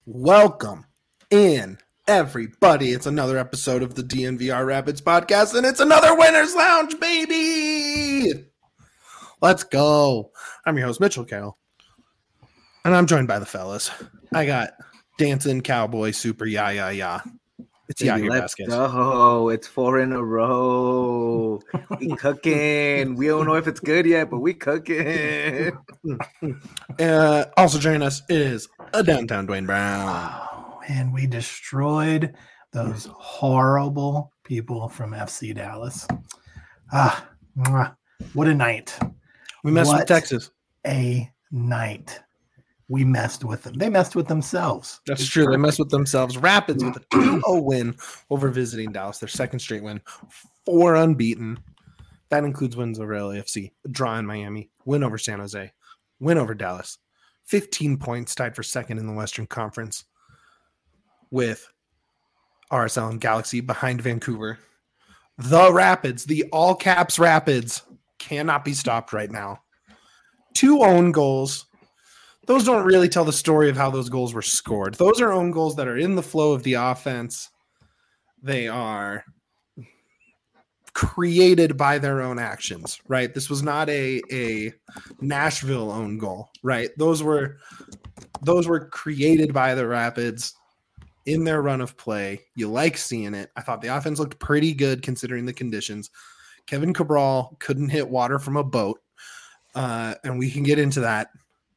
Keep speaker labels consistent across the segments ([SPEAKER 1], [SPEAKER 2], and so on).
[SPEAKER 1] Welcome in, everybody. It's another episode of the DNVR Rapids podcast, and it's another Winner's Lounge, baby! Let's go. I'm your host, Mitchell Carroll, and I'm joined by the fellas. I got Dancing Cowboy Super Ya. It's Yair
[SPEAKER 2] Let's
[SPEAKER 1] Vasquez.
[SPEAKER 2] go. It's 4 in a row. We cooking. We don't know if it's good yet, but we cooking.
[SPEAKER 1] Also joining us is a downtown Dwayne Brown.
[SPEAKER 3] Oh, and we destroyed those horrible people from FC Dallas. What a night.
[SPEAKER 1] We messed with Texas.
[SPEAKER 3] A night. We messed with them. They messed with themselves.
[SPEAKER 1] That's true. They messed with themselves. Rapids with a 2-0 win over visiting Dallas, their second straight win, 4 unbeaten. That includes wins over LAFC, a draw in Miami, win over San Jose, win over Dallas, 15 points, tied for second in the Western Conference with RSL and Galaxy behind Vancouver. The Rapids, the all caps Rapids, cannot be stopped right now. 2 own goals. Those don't really tell the story of how those goals were scored. Those are own goals that are in the flow of the offense. They are created by their own actions, right? This was not a Nashville own goal, right? Those were created by the Rapids in their run of play. You like seeing it. I thought the offense looked pretty good considering the conditions. Kevin Cabral couldn't hit water from a boat, and we can get into that.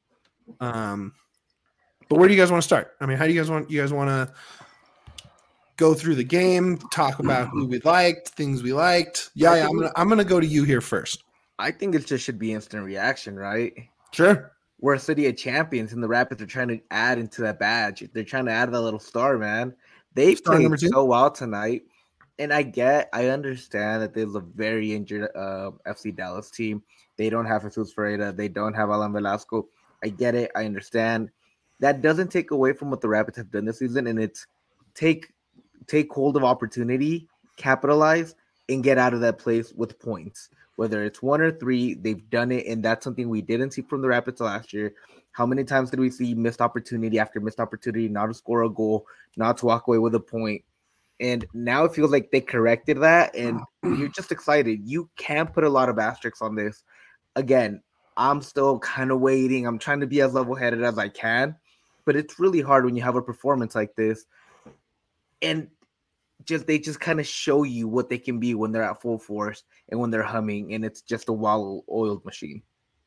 [SPEAKER 1] But where do you guys want to start? I mean, how do you guys want to go through the game, talk about who we liked, things we liked? Yeah, I'm gonna go to you here first.
[SPEAKER 2] I think it just should be instant reaction, right?
[SPEAKER 1] Sure.
[SPEAKER 2] We're a city of champions, and the Rapids are trying to add into that badge. They're trying to add that little star, man. They played so well tonight, and I understand that there's a very injured FC Dallas team. They don't have Jesus Ferreira. They don't have Alan Velasco. I get it. I understand. That doesn't take away from what the Rapids have done this season, and it's take hold of opportunity, capitalize, and get out of that place with points. Whether it's 1 or 3, they've done it, and that's something we didn't see from the Rapids last year. How many times did we see missed opportunity after missed opportunity, not to score a goal, not to walk away with a point? And now it feels like they corrected that, and you're just excited. You can't put a lot of asterisks on this. Again, I'm still kind of waiting. I'm trying to be as level-headed as I can, but it's really hard when you have a performance like this, and they just kind of show you what they can be when they're at full force and when they're humming, and it's just a well-oiled machine.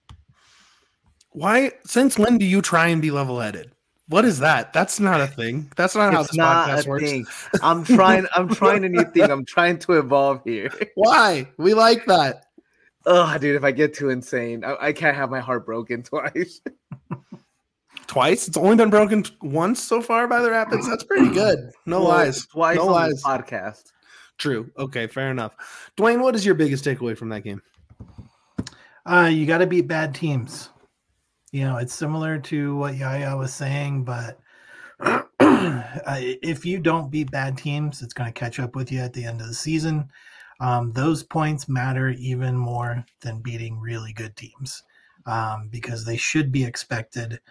[SPEAKER 1] Why? Since when do you try and be level-headed? What is that? That's not a thing. That's not how this podcast works.
[SPEAKER 2] Thing. I'm trying a new thing. I'm trying to evolve here.
[SPEAKER 1] Why? We like that.
[SPEAKER 2] Oh, dude, if I get too insane, I can't have my heart broken twice.
[SPEAKER 1] Twice? It's only been broken once so far by the Rapids. That's pretty good. No lies.
[SPEAKER 2] Twice
[SPEAKER 1] no
[SPEAKER 2] on
[SPEAKER 1] lies.
[SPEAKER 2] This podcast.
[SPEAKER 1] True. Okay, fair enough. Dwayne, what is your biggest takeaway from that game?
[SPEAKER 3] You got to beat bad teams. You know, it's similar to what Yaya was saying, but if you don't beat bad teams, it's going to catch up with you at the end of the season. Those points matter even more than beating really good teams because they should be expected.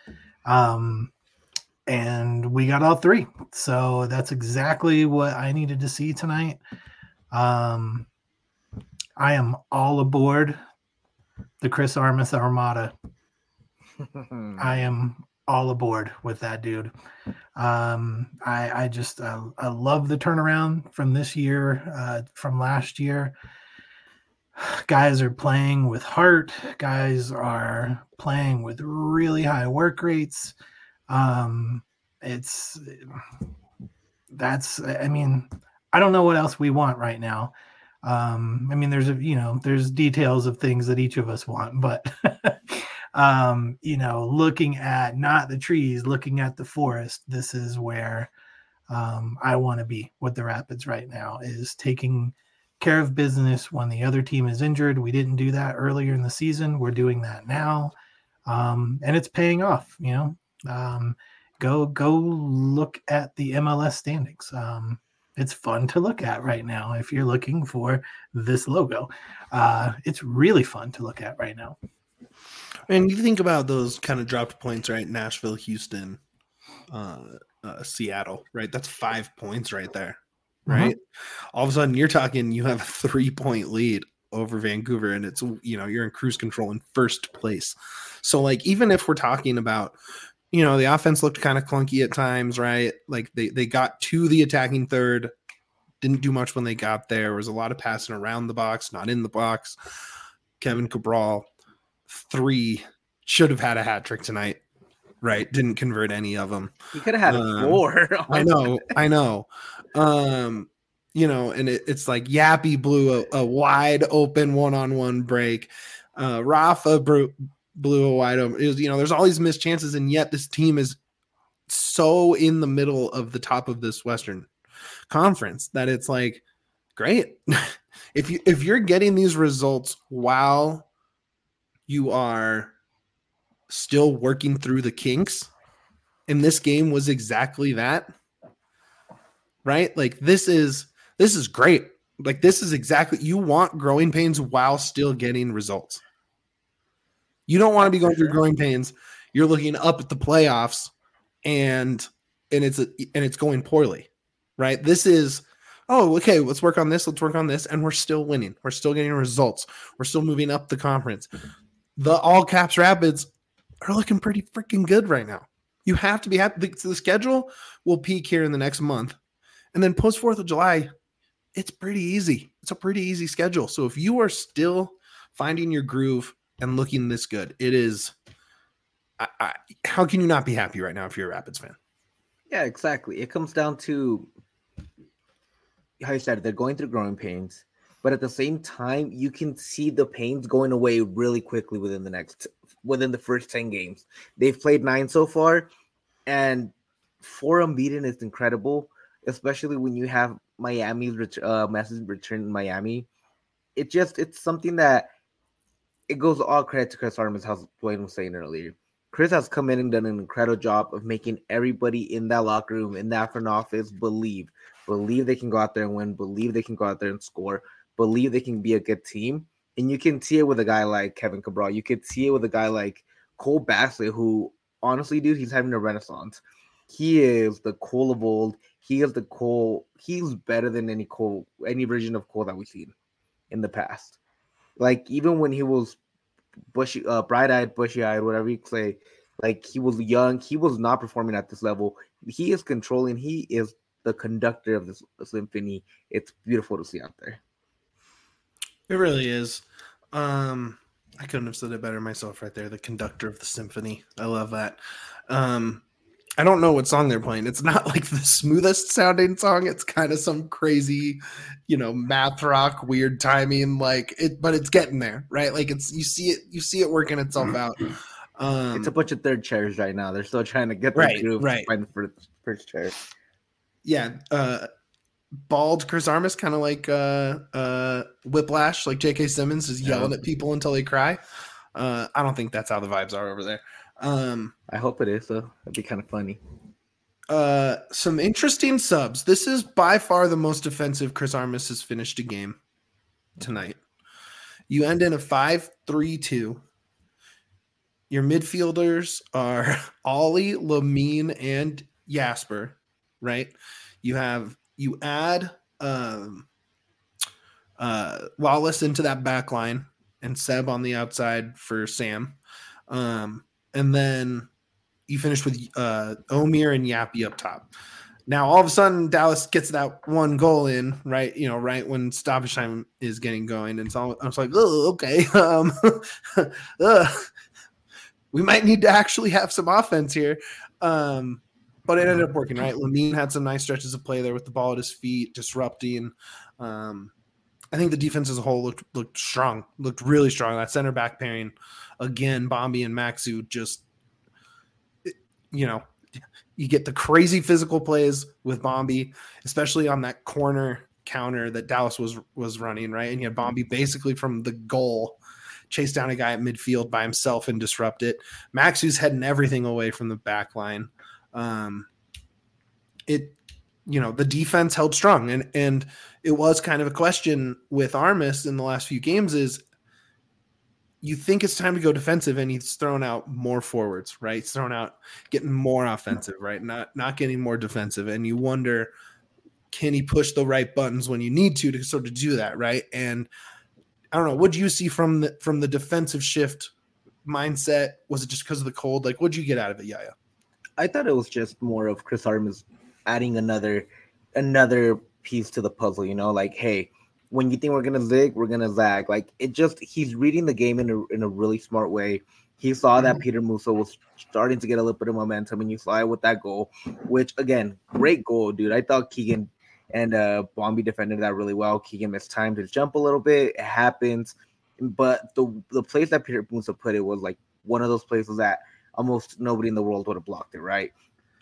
[SPEAKER 3] And we got all 3. So that's exactly what I needed to see tonight. I am all aboard the Chris Armas Armada. I am all aboard with that dude. I love the turnaround from this year, from last year. Guys are playing with heart. Guys are playing with really high work rates. I don't know what else we want right now. There's details of things that each of us want, but looking at not the trees, looking at the forest, this is where I want to be with the Rapids right now, is taking care of business when the other team is injured. We didn't do that earlier in the season. We're doing that now. And it's paying off, go look at the MLS standings. It's fun to look at right now. If you're looking for this logo, it's really fun to look at right now.
[SPEAKER 1] And you think about those kind of dropped points, right? Nashville, Houston, Seattle, right? That's 5 points right there, right? All of a sudden, you're talking, you have a 3-point lead over Vancouver, and it's, you're in cruise control in first place. So, like, even if we're talking about, the offense looked kind of clunky at times, right? Like, they got to the attacking third, didn't do much when they got there. There was a lot of passing around the box, not in the box. Kevin Cabral, 3, should have had a hat trick tonight, right? Didn't convert any of them.
[SPEAKER 2] He could have had 4.
[SPEAKER 1] I know. And it's like Yappy blew a wide open one-on-one break. Rafa blew a wide open. It was, there's all these missed chances, and yet this team is so in the middle of the top of this Western Conference that it's like, great. If you're getting these results while you are still working through the kinks, and this game was exactly that, right? Like, this is great. Like, this is exactly, you want growing pains while still getting results. You don't want to be going through growing pains. You're looking up at the playoffs and it's going poorly, right? This is, okay, let's work on this. And we're still winning. We're still getting results. We're still moving up the conference. The all caps Rapids are looking pretty freaking good right now. You have to be happy. The schedule will peak here in the next month. And then post 4th of July, it's pretty easy. It's a pretty easy schedule. So if you are still finding your groove and looking this good, it is, how can you not be happy right now if you're a Rapids fan?
[SPEAKER 2] Yeah, exactly. It comes down to, how you said, they're going through growing pains, but at the same time, you can see the pains going away really quickly within the first 10 games. They've played 9 so far, and 4 unbeaten is incredible, especially when you have Miami's message return in Miami. It's something that it goes all credit to Chris Armas, as Dwayne was saying earlier. Chris has come in and done an incredible job of making everybody in that locker room, in that front office, believe they can go out there and win, believe they can go out there and score, believe they can be a good team. And you can see it with a guy like Kevin Cabral. You could see it with a guy like Cole Bassett, who, honestly, dude, he's having a renaissance. He is the Cole of old. He is the Cole. He's better than any version of Cole that we've seen in the past. Like, even when he was bushy, bright-eyed, bushy-eyed, whatever you say, like, he was young, he was not performing at this level. He is controlling. He is the conductor of this symphony. It's beautiful to see out there.
[SPEAKER 1] It really is. I couldn't have said it better myself right there. The conductor of the symphony. I love that. I don't know what song they're playing. It's not like the smoothest sounding song. It's kind of some crazy, math rock, weird timing, but it's getting there, right? Like, you see it working itself out.
[SPEAKER 2] It's a bunch of third chairs right now. They're still trying to get the groove to find the first chair. Yeah.
[SPEAKER 1] Bald Chris Armas, kind of like Whiplash, like J.K. Simmons is yelling at people until they cry. I don't think that's how the vibes are over there.
[SPEAKER 2] I hope it is, though. That'd be kind of funny.
[SPEAKER 1] Some interesting subs. This is by far the most defensive Chris Armas has finished a game tonight. You end in a 5-3-2. Your midfielders are Ollie, Lamine, and Jasper, right? You add Wallace into that back line and Seb on the outside for Sam. And then you finish with Omir and Yappy up top. Now, all of a sudden, Dallas gets that one goal in, right? Right when stoppage time is getting going. And so I was like, oh, okay. We might need to actually have some offense here. But it ended up working, right? Lamine had some nice stretches of play there with the ball at his feet, disrupting. I think the defense as a whole looked strong, looked really strong. That center back pairing, again, Bombi and Maxu, just, you get the crazy physical plays with Bombi, especially on that corner counter that Dallas was running, right? And you had Bombi basically from the goal chase down a guy at midfield by himself and disrupt it. Maxu's heading everything away from the back line. The defense held strong, and it was kind of a question with Armas in the last few games is, you think it's time to go defensive, and he's throwing out more forwards, right? He's throwing out getting more offensive, right? Not getting more defensive, and you wonder, can he push the right buttons when you need to sort of do that, right? And I don't know, what do you see from the defensive shift mindset? Was it just because of the cold? Like, what'd you get out of it, Yaya?
[SPEAKER 2] I thought it was just more of Chris Armas adding another piece to the puzzle, like, hey, when you think we're gonna zig, we're gonna zag. Like, he's reading the game in a really smart way. He saw that Peter Musa was starting to get a little bit of momentum, and you saw it with that goal, which, again, great goal, dude. I thought Keegan and Bombi defended that really well. Keegan missed time to jump a little bit. It happens. But the place that Peter Musa put it was like one of those places that almost nobody in the world would have blocked it, right?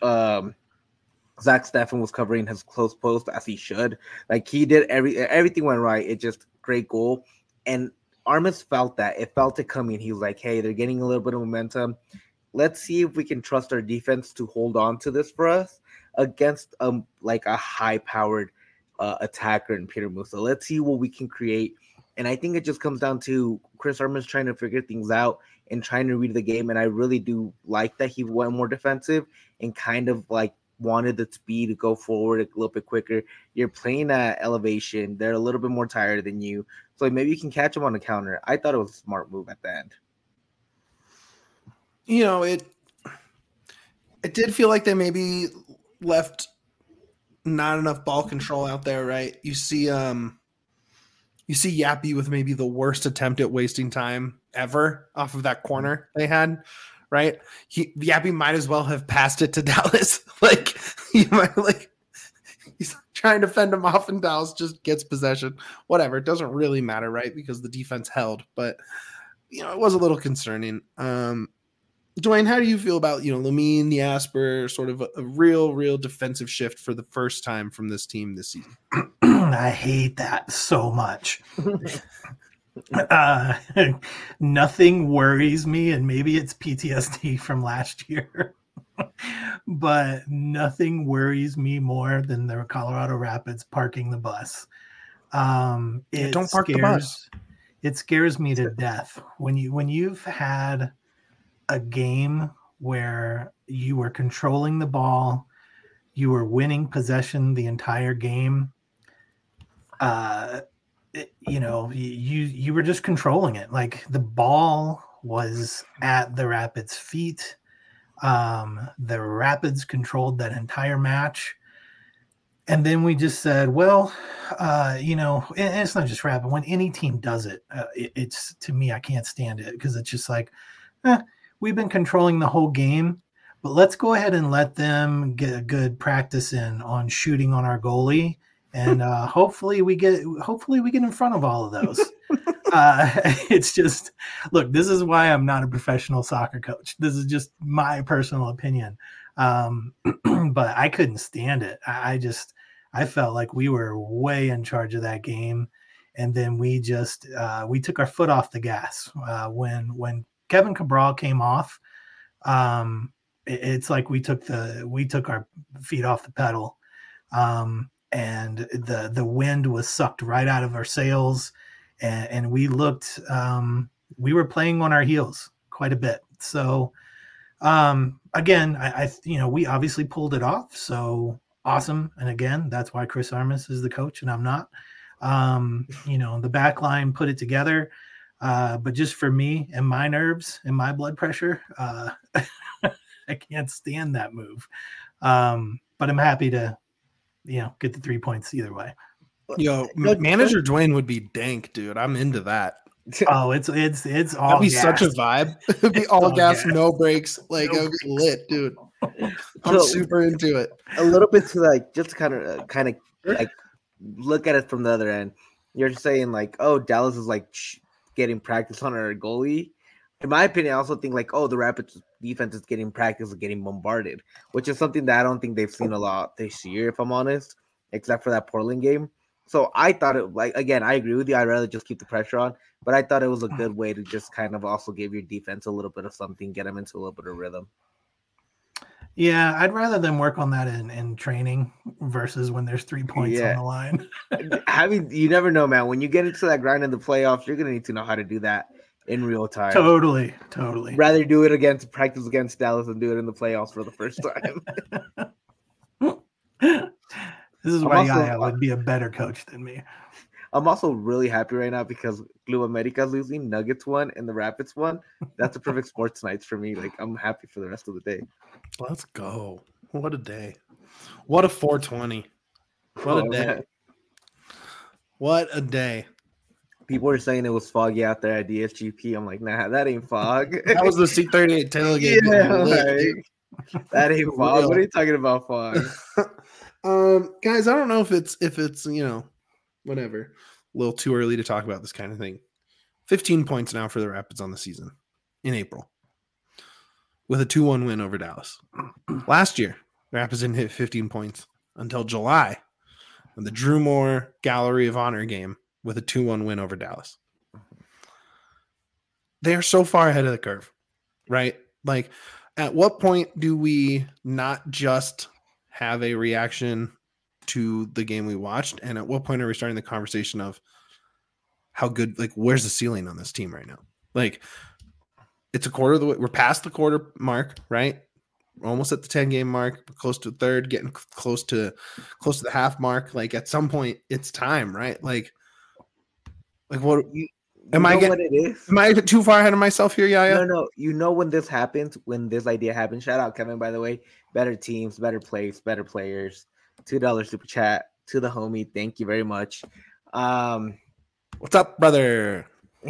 [SPEAKER 2] Zach Steffen was covering his close post as he should. Like, he did everything went right. It just great goal. And Armas felt that. It felt it coming. He was like, hey, they're getting a little bit of momentum. Let's see if we can trust our defense to hold on to this for us against like a high-powered attacker in Peter Musa. Let's see what we can create. And I think it just comes down to Chris Armas trying to figure things out and trying to read the game. And I really do like that he went more defensive and kind of like wanted the speed to go forward a little bit quicker. You're playing at elevation. They're a little bit more tired than you. So maybe you can catch them on the counter. I thought it was a smart move at the end.
[SPEAKER 1] It did feel like they maybe left not enough ball control out there, right? You see Yappy with maybe the worst attempt at wasting time ever off of that corner they had, right? Yappy might as well have passed it to Dallas. He's trying to fend him off, and Dallas just gets possession. Whatever, it doesn't really matter, right? Because the defense held, but it was a little concerning. Dwayne, how do you feel about Lamine, the Asper, sort of a real defensive shift for the first time from this team this season?
[SPEAKER 3] I hate that so much. Nothing worries me, and maybe it's PTSD from last year, but nothing worries me more than the Colorado Rapids parking the bus. Don't park the bus. It scares me to death when you've had a game where you were controlling the ball, you were winning possession the entire game. You were just controlling it. Like, the ball was at the Rapids' feet. The Rapids controlled that entire match. And then we just said, well, and it's not just Rapid. When any team does it, it's, to me, I can't stand it, because it's just like, we've been controlling the whole game, but let's go ahead and let them get a good practice in on shooting on our goalie. And hopefully we get in front of all of those. It's just, look, this is why I'm not a professional soccer coach. This is just my personal opinion. But I couldn't stand it. I felt like we were way in charge of that game. And then we just, we took our foot off the gas. When Kevin Cabral came off, it's like we took our feet off the pedal. And the wind was sucked right out of our sails, and we looked, we were playing on our heels quite a bit. So, again, we obviously pulled it off. So awesome. And again, that's why Chris Armas is the coach and I'm not. The back line put it together. But just for me and my nerves and my blood pressure, I can't stand that move. But I'm happy to, get the 3 points either way.
[SPEAKER 1] Manager Dwayne would be dank, dude. I'm into that.
[SPEAKER 3] Oh, it's all
[SPEAKER 1] that'd be gas. Such a vibe. It'd be all gas, no brakes. Like, it would be lit, dude. I'm super into it.
[SPEAKER 2] A little bit to just kind of like look at it from the other end. You're saying like, oh, Dallas is like getting practice on our goalie. In my opinion, I also think like, oh, the Rapids defense is getting practice of getting bombarded, which is something that I don't think they've seen a lot this year, if I'm honest, except for that Portland game. So I thought it, like, again, I agree with you. I'd rather just keep the pressure on, but I thought it was a good way to just kind of also give your defense a little bit of something, get them into a little bit of rhythm.
[SPEAKER 3] Yeah, I'd rather them work on that in training versus when there's 3 points on the line.
[SPEAKER 2] You never know, man. When you get into that grind in the playoffs, you're going to need to know how to do that. in real time.
[SPEAKER 3] Totally.
[SPEAKER 2] Rather do it against practice against Dallas than do it in the playoffs for the first time.
[SPEAKER 3] This is why Yaya would be a better coach than me.
[SPEAKER 2] I'm also really happy right now because Club America's losing, Nuggets won, and the Rapids won. That's a perfect sports nights for me. Like, I'm happy for the rest of the day.
[SPEAKER 1] Let's go. What a day. What a 420. What a day. Man. What a day.
[SPEAKER 2] People were saying it was foggy out there at DSGP. I'm like, nah, that ain't fog.
[SPEAKER 1] That was the C38 tailgate.
[SPEAKER 2] Yeah, that ain't fog. What are you talking about, fog?
[SPEAKER 1] Guys, I don't know if it's whatever. A little too early to talk about this kind of thing. 15 points now for the Rapids on the season in April with a 2-1 win over Dallas. Last year, the Rapids didn't hit 15 points until July in the Drew Moore Gallery of Honor game with a 2-1 win over Dallas. They are so far ahead of the curve, right? Like, at what point do we not just have a reaction to the game we watched, and at what point are we starting the conversation of how good, like, where's the ceiling on this team right now? Like, it's a quarter of the way. We're past the quarter mark, right? We're almost at the 10-game mark, close to a third, getting close to the half mark. Like, at some point, it's time, right? Like what? Am I too far ahead of myself here, Yaya?
[SPEAKER 2] No. You know when this happens, when this idea happens. Shout out Kevin, by the way. Better teams, better plays, better players. $2 super chat to the homie. Thank you very much.
[SPEAKER 1] What's up, brother?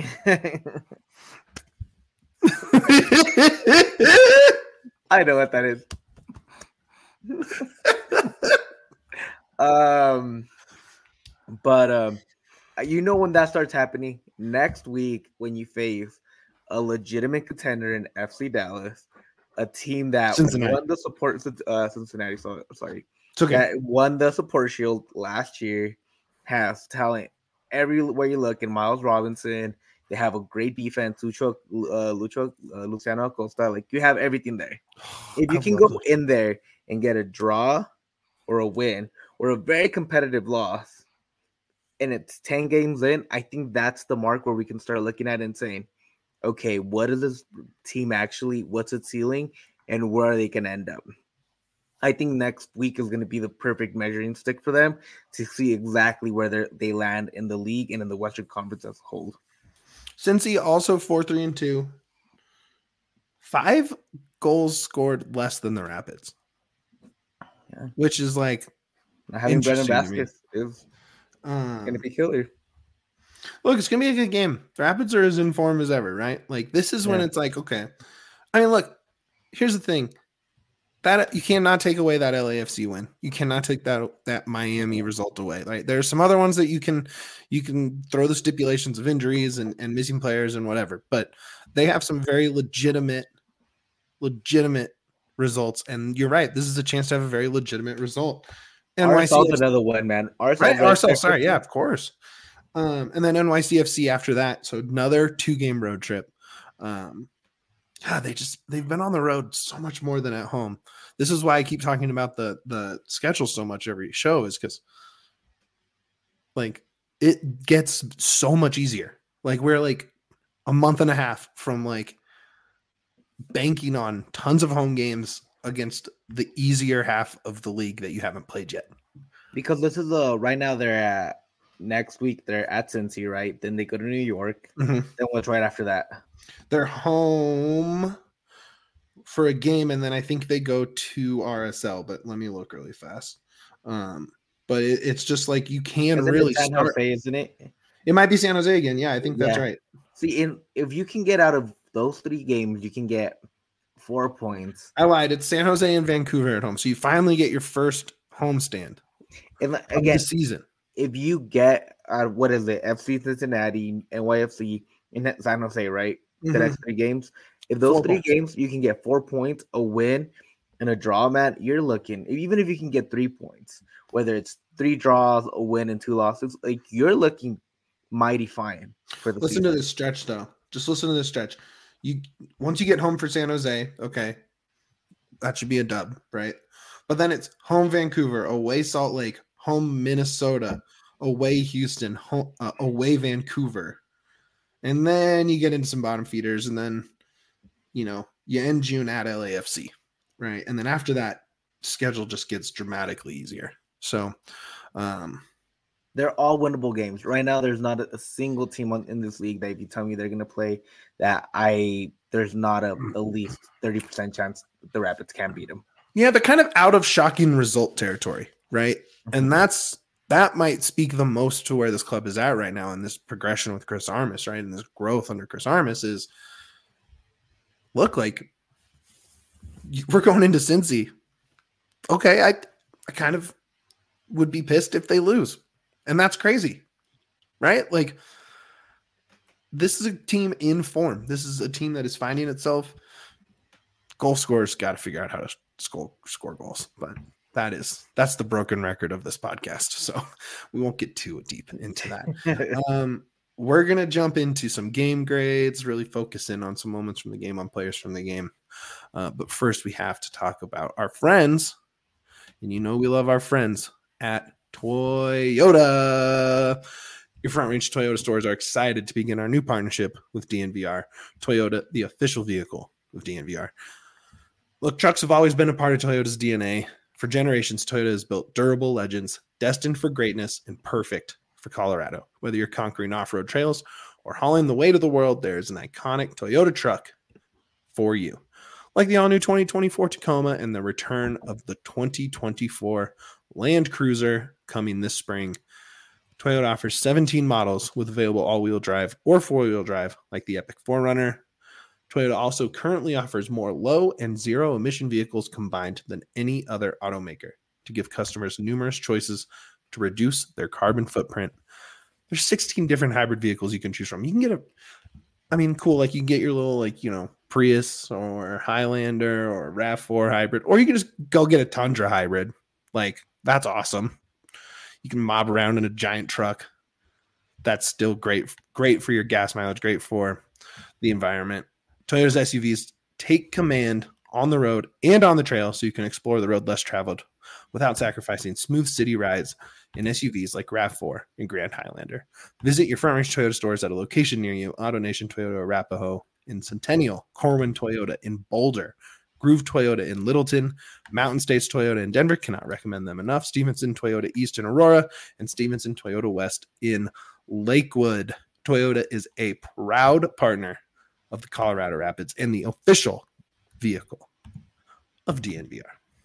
[SPEAKER 2] I know what that is. But you know when that starts happening next week when you face a legitimate contender in FC Dallas, a team that won the support Cincinnati. Sorry,
[SPEAKER 1] it's okay.
[SPEAKER 2] That won the support shield last year, has talent everywhere you look. In Miles Robinson, they have a great defense. Luciano Acosta, like you have everything there. If you can go in there and get a draw or a win or a very competitive loss, and it's 10 games in, I think that's the mark where we can start looking at it and saying, okay, what is this team actually? What's its ceiling? And where are they going to end up? I think next week is going to be the perfect measuring stick for them to see exactly where they land in the league and in the Western Conference as a whole.
[SPEAKER 1] Cincy also 4-3-2. 5 goals scored less than the Rapids.
[SPEAKER 2] Yeah.
[SPEAKER 1] Which is like
[SPEAKER 2] having Brendan Vasquez is going to be killer.
[SPEAKER 1] Look, it's going to be a good game. The Rapids are as in form as ever, right? Like, this is when it's like, okay. I mean, look, here's the thing. That you cannot take away that LAFC win. You cannot take that Miami result away. Right? There are some other ones that you can throw the stipulations of injuries and missing players and whatever, but they have some very legitimate results. And you're right. This is a chance to have a very legitimate result.
[SPEAKER 2] RSL's another one, man.
[SPEAKER 1] RSL, sorry, yeah, of course. And then NYCFC after that. So another 2-game road trip. They've been on the road so much more than at home. This is why I keep talking about the schedule so much every show, is because like it gets so much easier. Like we're like a month and a half from like banking on tons of home games against the easier half of the league that you haven't played yet.
[SPEAKER 2] Because this is right now they're at next week they're at Cincy, right? Then they go to New York.
[SPEAKER 1] Mm-hmm.
[SPEAKER 2] Then what's right after that?
[SPEAKER 1] They're home for a game, and then I think they go to RSL. But let me look really fast. But it's just like you can really
[SPEAKER 2] San Jose, isn't it?
[SPEAKER 1] It might be San Jose again. Yeah, I think that's right.
[SPEAKER 2] See, if you can get out of those 3 games, you can get 4 points.
[SPEAKER 1] I lied. It's San Jose and Vancouver at home. So you finally get your first homestand
[SPEAKER 2] and again
[SPEAKER 1] the season.
[SPEAKER 2] If you get what is it, FC Cincinnati, NYFC, in San Jose, right?
[SPEAKER 1] Mm-hmm.
[SPEAKER 2] The next 3 games. If those 3 games you can get 4 points, a win, and a draw, man, you're looking. Even if you can get 3 points, whether it's 3 draws, a win, and 2 losses, like you're looking mighty fine for the
[SPEAKER 1] season. To this stretch, though. Just listen to this stretch. Once you get home for San Jose, okay, that should be a dub, right? But then it's home Vancouver, away Salt Lake, home Minnesota, away Houston, home, away Vancouver, And then you get into some bottom feeders, and then, you end June at LAFC, right? And then after that, schedule just gets dramatically easier. So
[SPEAKER 2] they're all winnable games. Right now, there's not a single team in this league that if you tell me they're going to play there's not at least 30% chance the Rapids can beat them.
[SPEAKER 1] Yeah, they're kind of out of shocking result territory, right? And that might speak the most to where this club is at right now in this progression with Chris Armas, right? And this growth under Chris Armas is, look, like, we're going into Cincy. Okay, I kind of would be pissed if they lose. And that's crazy, right? Like, this is a team in form. This is a team that is finding itself. Goal scorers got to figure out how to score goals. But that's the broken record of this podcast. So we won't get too deep into that. We're going to jump into some game grades, really focus in on some moments from the game, on players from the game. But first, we have to talk about our friends. And we love our friends at Toyota. Your Front Range Toyota stores are excited to begin our new partnership with DNVR. Toyota, the official vehicle of DNVR. Look, trucks have always been a part of Toyota's DNA. For generations, Toyota has built durable legends, destined for greatness and perfect for Colorado. Whether you're conquering off-road trails or hauling the weight of the world, there is an iconic Toyota truck for you. Like the all-new 2024 Tacoma and the return of the 2024 Land Cruiser coming this spring. Toyota offers 17 models with available all-wheel drive or four-wheel drive, like the Epic 4Runner. Toyota also currently offers more low and zero-emission vehicles combined than any other automaker to give customers numerous choices to reduce their carbon footprint. There's 16 different hybrid vehicles you can choose from. You can get cool, like you can get your little, Prius or Highlander or RAV4 hybrid, or you can just go get a Tundra hybrid. Like, that's awesome. You can mob around in a giant truck. That's still great for your gas mileage, great for the environment. Toyota's SUVs take command on the road and on the trail so you can explore the road less traveled without sacrificing smooth city rides in SUVs like RAV4 and Grand Highlander. Visit your Front Range Toyota stores at a location near you. AutoNation Toyota Arapahoe in Centennial, Corwin Toyota in Boulder, Groove Toyota in Littleton, Mountain States Toyota in Denver, cannot recommend them enough, Stevenson Toyota East in Aurora, and Stevenson Toyota West in Lakewood. Toyota is a proud partner of the Colorado Rapids and the official vehicle of DNVR.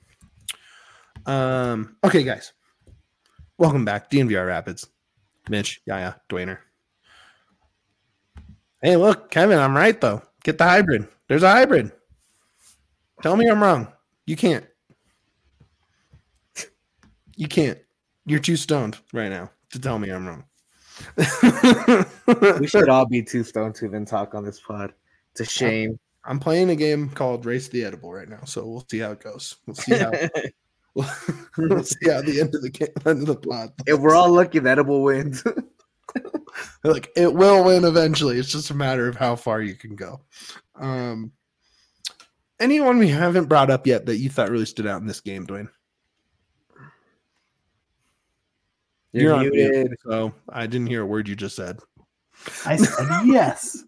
[SPEAKER 1] Okay, guys. Welcome back. DNVR Rapids. Mitch, Yaya, Dwayner. Hey, look, Kevin, I'm right, though. Get the hybrid. There's a hybrid. Tell me I'm wrong. You can't. You can't. You're too stoned right now to tell me I'm wrong.
[SPEAKER 2] We should all be too stoned to even talk on this pod. It's a shame.
[SPEAKER 1] I'm playing a game called Race the Edible right now, so we'll see how it goes. We'll see how we'll see how the end of the pod.
[SPEAKER 2] If we're all lucky, the Edible wins.
[SPEAKER 1] Like, it will win eventually. It's just a matter of how far you can go. Anyone we haven't brought up yet that you thought really stood out in this game, Dwayne? You're on mute, so I didn't hear a word you just said.
[SPEAKER 3] I said yes.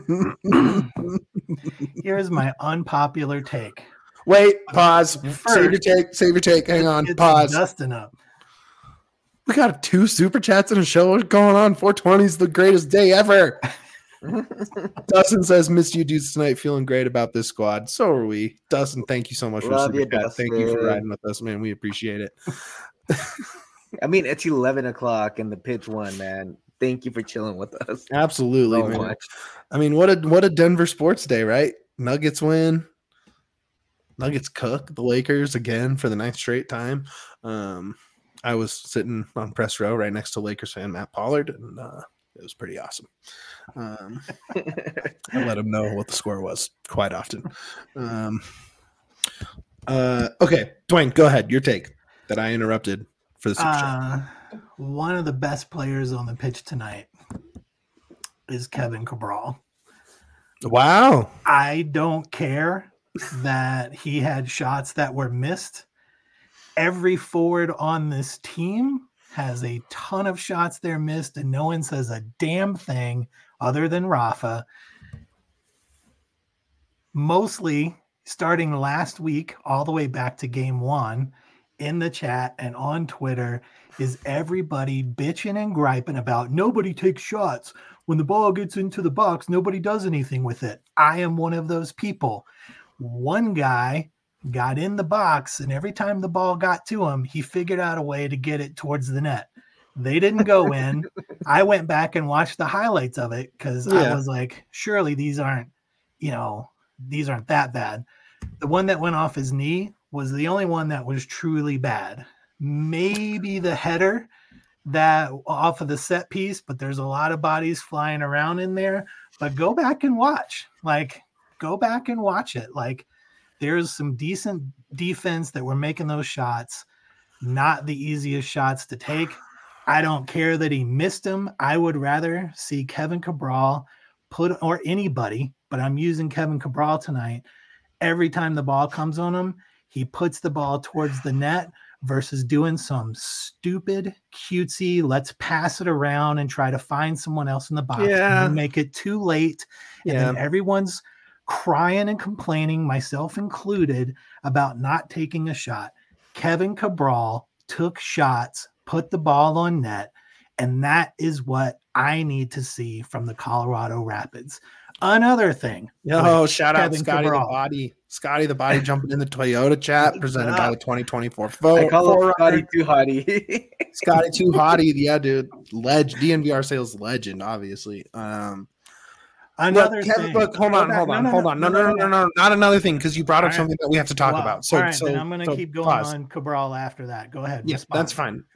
[SPEAKER 3] Here's my unpopular take.
[SPEAKER 1] Wait, pause. Save your take. Hang on. Pause.
[SPEAKER 3] Dusting up.
[SPEAKER 1] We got 2 super chats and a show. What's going on? 420 is the greatest day ever. Dustin says, missed you dudes tonight. Feeling great about this squad. So are we. Dustin, thank you so much for the super chat. Thank you for riding with us, man. We appreciate it.
[SPEAKER 2] I mean, it's 11 o'clock and the pitch won, man. Thank you for chilling with us.
[SPEAKER 1] Absolutely,
[SPEAKER 2] so
[SPEAKER 1] man.
[SPEAKER 2] Much.
[SPEAKER 1] I mean, what a Denver sports day, right? Nuggets win. Nuggets cook the Lakers again for the 9th straight time. I was sitting on press row right next to Lakers fan Matt Pollard, and it was pretty awesome. I let him know what the score was quite often. Okay, Dwayne, go ahead. Your take that I interrupted for the super chat.
[SPEAKER 3] One of the best players on the pitch tonight is Kevin Cabral.
[SPEAKER 1] Wow.
[SPEAKER 3] I don't care that he had shots that were missed. Every forward on this team has a ton of shots they're missed, and no one says a damn thing other than Rafa. Mostly starting last week all the way back to game 1 in the chat and on Twitter is everybody bitching and griping about nobody takes shots. When the ball gets into the box, nobody does anything with it. I am one of those people. One guy got in the box, and every time the ball got to him, he figured out a way to get it towards the net. They didn't go in. I went back and watched the highlights of it because I was like, surely these aren't that bad. The one that went off his knee was the only one that was truly bad. Maybe the header that off of the set piece, but there's a lot of bodies flying around in there. But go back and watch. Go back and watch it. There's some decent defense that were making those shots. Not the easiest shots to take. I don't care that he missed them. I would rather see Kevin Cabral or anybody, but I'm using Kevin Cabral tonight. Every time the ball comes on him, he puts the ball towards the net versus doing some stupid, cutesy, let's pass it around and try to find someone else in the box.
[SPEAKER 1] Yeah.
[SPEAKER 3] And make it too late. And then everyone's crying and complaining, myself included, about not taking a shot. Kevin Cabral took shots, put the ball on net, and that is what I need to see from the Colorado Rapids. Another thing.
[SPEAKER 1] Shout out Scotty Cabral. Scotty the Body jumping in the Toyota chat presented by the 2024 Ford.
[SPEAKER 2] I call it Scotty Too Hottie.
[SPEAKER 1] Scotty Too Hottie. Yeah, dude. DNVR sales legend, obviously.
[SPEAKER 3] Another thing.
[SPEAKER 1] Look, hold on. No, not another thing, because you brought up something that we have to talk about. So,
[SPEAKER 3] then I'm going to keep going on Cabral after that. Go ahead.
[SPEAKER 1] Yes, that's fine.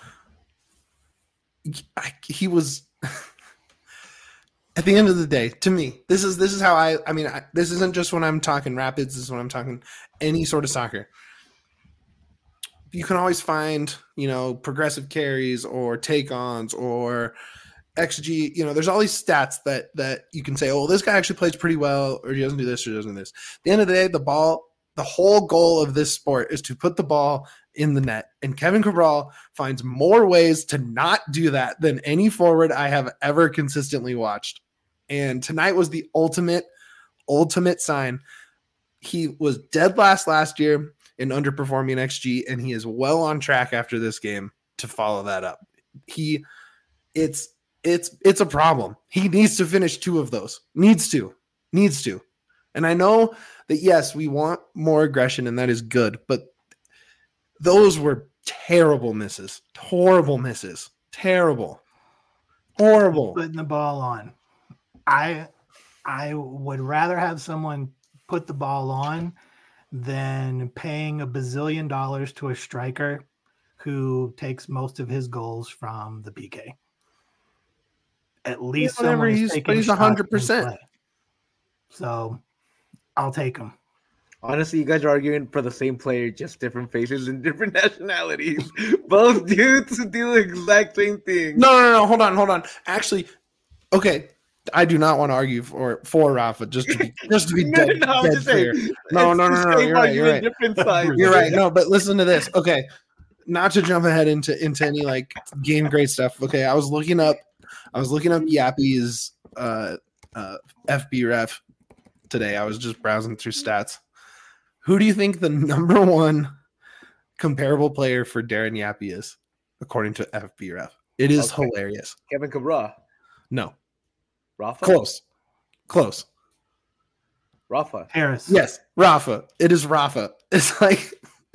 [SPEAKER 1] He was at the end of the day, to me, this is how this isn't just when I'm talking Rapids, this is when I'm talking any sort of soccer. You can always find, progressive carries or take-ons or XG, there's all these stats that you can say, oh, this guy actually plays pretty well, or he doesn't do this or doesn't do this. At the end of the day, the whole goal of this sport is to put the ball in the net. And Kevin Cabral finds more ways to not do that than any forward I have ever consistently watched. And tonight was the ultimate sign. He was dead last year in underperforming XG, and he is well on track after this game to follow that up. It's a problem. He needs to finish 2 of those. Needs to. And I know that, yes, we want more aggression, and that is good, but those were terrible misses. Horrible misses. Terrible. Horrible.
[SPEAKER 3] Putting the ball on. I would rather have someone put the ball on than paying $1 bazillion to a striker who takes most of his goals from the PK. At least
[SPEAKER 1] he's 100%.
[SPEAKER 3] So I'll take him.
[SPEAKER 2] Honestly, you guys are arguing for the same player, just different faces and different nationalities. Both dudes do the exact same thing.
[SPEAKER 1] No. Hold on. Actually, okay. I do not want to argue for Rafa, just to be dead clear. No. You're right.
[SPEAKER 2] Different sides.
[SPEAKER 1] You're right. No, but listen to this. Okay, not to jump ahead into any game grade stuff. Okay, I was looking up Yappy's FB ref today. I was just browsing through stats. Who do you think the number 1 comparable player for Darren Yappy is, according to FB ref? It is hilarious.
[SPEAKER 2] Kevin Cabral.
[SPEAKER 1] No.
[SPEAKER 2] Rafa?
[SPEAKER 1] Close.
[SPEAKER 2] Rafa.
[SPEAKER 3] Harris.
[SPEAKER 1] Yes, Rafa. It is Rafa. It's like...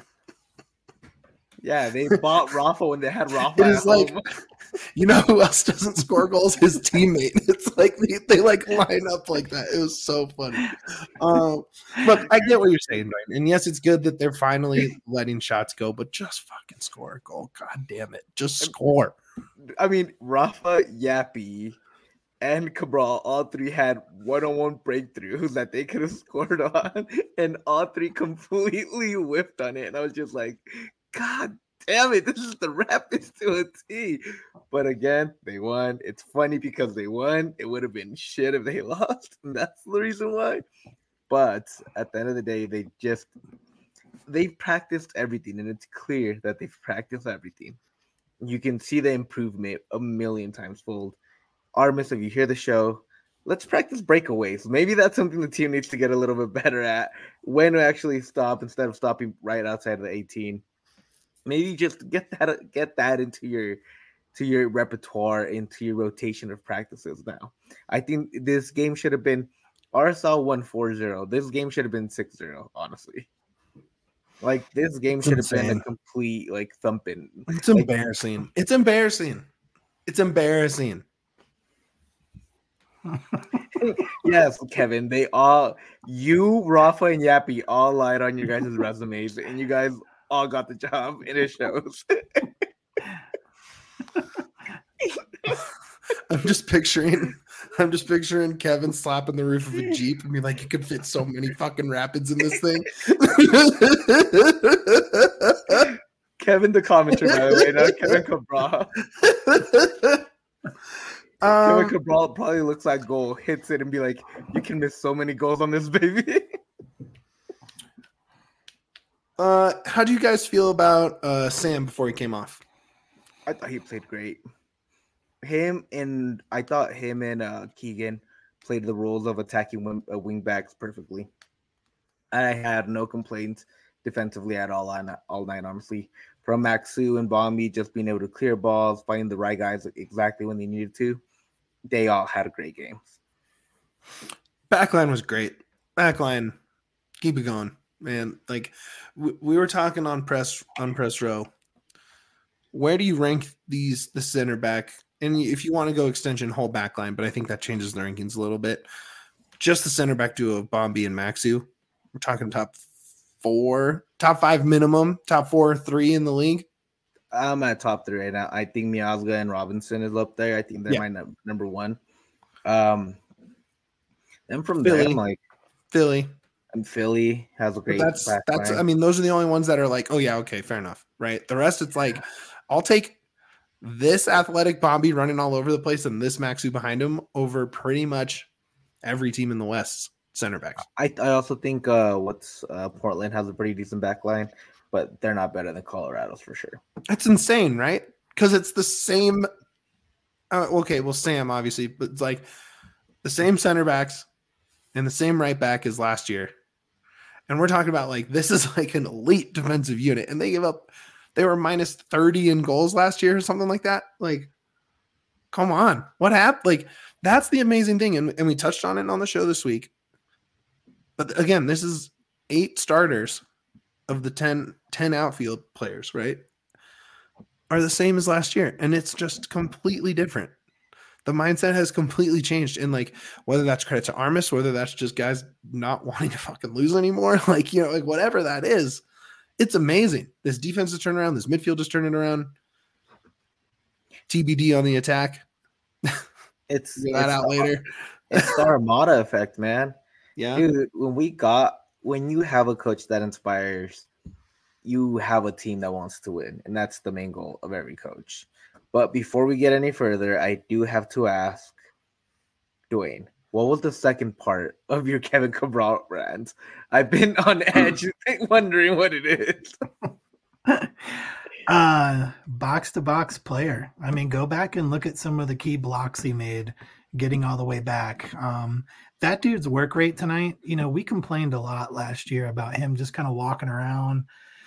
[SPEAKER 2] Yeah, they bought Rafa when they had Rafa.
[SPEAKER 1] It is like... You know who else doesn't score goals? His teammate. It's like they line up like that. It was so funny. Look, I get what you're saying, right? And yes, it's good that they're finally letting shots go, but just fucking score a goal. God damn it. Just score.
[SPEAKER 2] I mean, Rafa, Yappy, and Cabral, all 3 had one-on-one breakthroughs that they could have scored on, and all 3 completely whiffed on it. And I was just like, God damn it, this is the Rapids to a T. But again, they won. It's funny because they won. It would have been shit if they lost, and that's the reason why. But at the end of the day, they've practiced everything, and it's clear that they've practiced everything. You can see the improvement a million times fold. Armis, if you hear the show, let's practice breakaways. Maybe that's something the team needs to get a little bit better at. When to actually stop instead of stopping right outside of the 18. Maybe just get that into your repertoire, into your rotation of practices now. I think this game should have been RSL won 4-0. This game should have been 6-0, honestly. Like, this game should have been a complete, like, thumping.
[SPEAKER 1] It's embarrassing. It's embarrassing. It's embarrassing.
[SPEAKER 2] Yes, Kevin. You, Rafa, and Yappy all lied on your guys' resumes, and you guys all got the job, and it shows.
[SPEAKER 1] I'm just picturing Kevin slapping the roof of a Jeep and be like, you could fit so many fucking rapids in this thing.
[SPEAKER 2] Kevin, the commenter, by the way, not Kevin Cabral. Kevin Cabral probably looks like goal, hits it, and be like, you can miss so many goals on this, baby.
[SPEAKER 1] How do you guys feel about Sam before he came off?
[SPEAKER 2] I thought he played great. I thought him and Keegan played the roles of attacking wing backs perfectly. I had no complaints defensively at all night, honestly. From Maxu and Bombi just being able to clear balls, finding the right guys exactly when they needed to. They all had great games.
[SPEAKER 1] Backline was great. Backline, keep it going, man. Like we were talking on press row. Where do you rank the center back? And if you want to go extension, whole back line, but I think that changes the rankings a little bit. Just the center back duo of Bombi and Maxu. We're talking top 5 minimum, top 4 or 3 in the league.
[SPEAKER 2] I'm at top 3 right now. I think Miazga and Robinson is up there. I think they're my number 1. And from
[SPEAKER 1] Philly.
[SPEAKER 2] them, like
[SPEAKER 1] Philly.
[SPEAKER 2] And Philly has a great
[SPEAKER 1] that's I mean, those are the only ones that are like, oh yeah, okay, fair enough. Right. The rest, it's like, I'll take this athletic Bombi running all over the place and this Maxu behind him over pretty much every team in the West center backs.
[SPEAKER 2] I also think Portland has a pretty decent back line, but they're not better than Colorado's for sure.
[SPEAKER 1] That's insane, right? Because it's the same. Okay, well, Sam obviously, but it's like the same center backs and the same right back as last year. And we're talking about like, this is like an elite defensive unit, and they were minus 30 in goals last year or something like that. Like, come on, what happened? Like, that's the amazing thing. And we touched on it on the show this week. But again, this is 8 starters of the 10 outfield players, right? Are the same as last year. And it's just completely different. The mindset has completely changed. And like, whether that's credit to Armis, whether that's just guys not wanting to fucking lose anymore, like, you know, like whatever that is, it's amazing. This defense is turning around. This midfield is turning around. TBD on the attack.
[SPEAKER 2] It's
[SPEAKER 1] out later.
[SPEAKER 2] It's the Armada effect, man.
[SPEAKER 1] Yeah.
[SPEAKER 2] Dude, when you have a coach that inspires, you have a team that wants to win. And that's the main goal of every coach. But before we get any further, I do have to ask Dwayne, what was the second part of your Kevin Cabral rant? I've been on edge wondering what it is.
[SPEAKER 3] Box-to-box player. I mean, go back and look at some of the key blocks he made getting all the way back. That dude's work rate tonight, you know, we complained a lot last year about him just kind of walking around,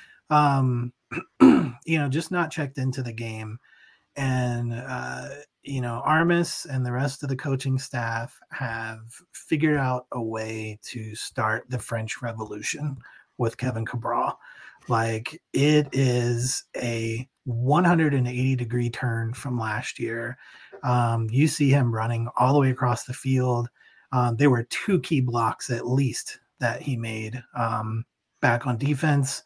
[SPEAKER 3] you know, just not checked into the game. And, you know, Armis and the rest of the coaching staff have figured out a way to start the French Revolution with Kevin Cabral. Like, it is a 180-degree turn from last year. You see him running all the way across the field. There were 2 key blocks at least that he made back on defense.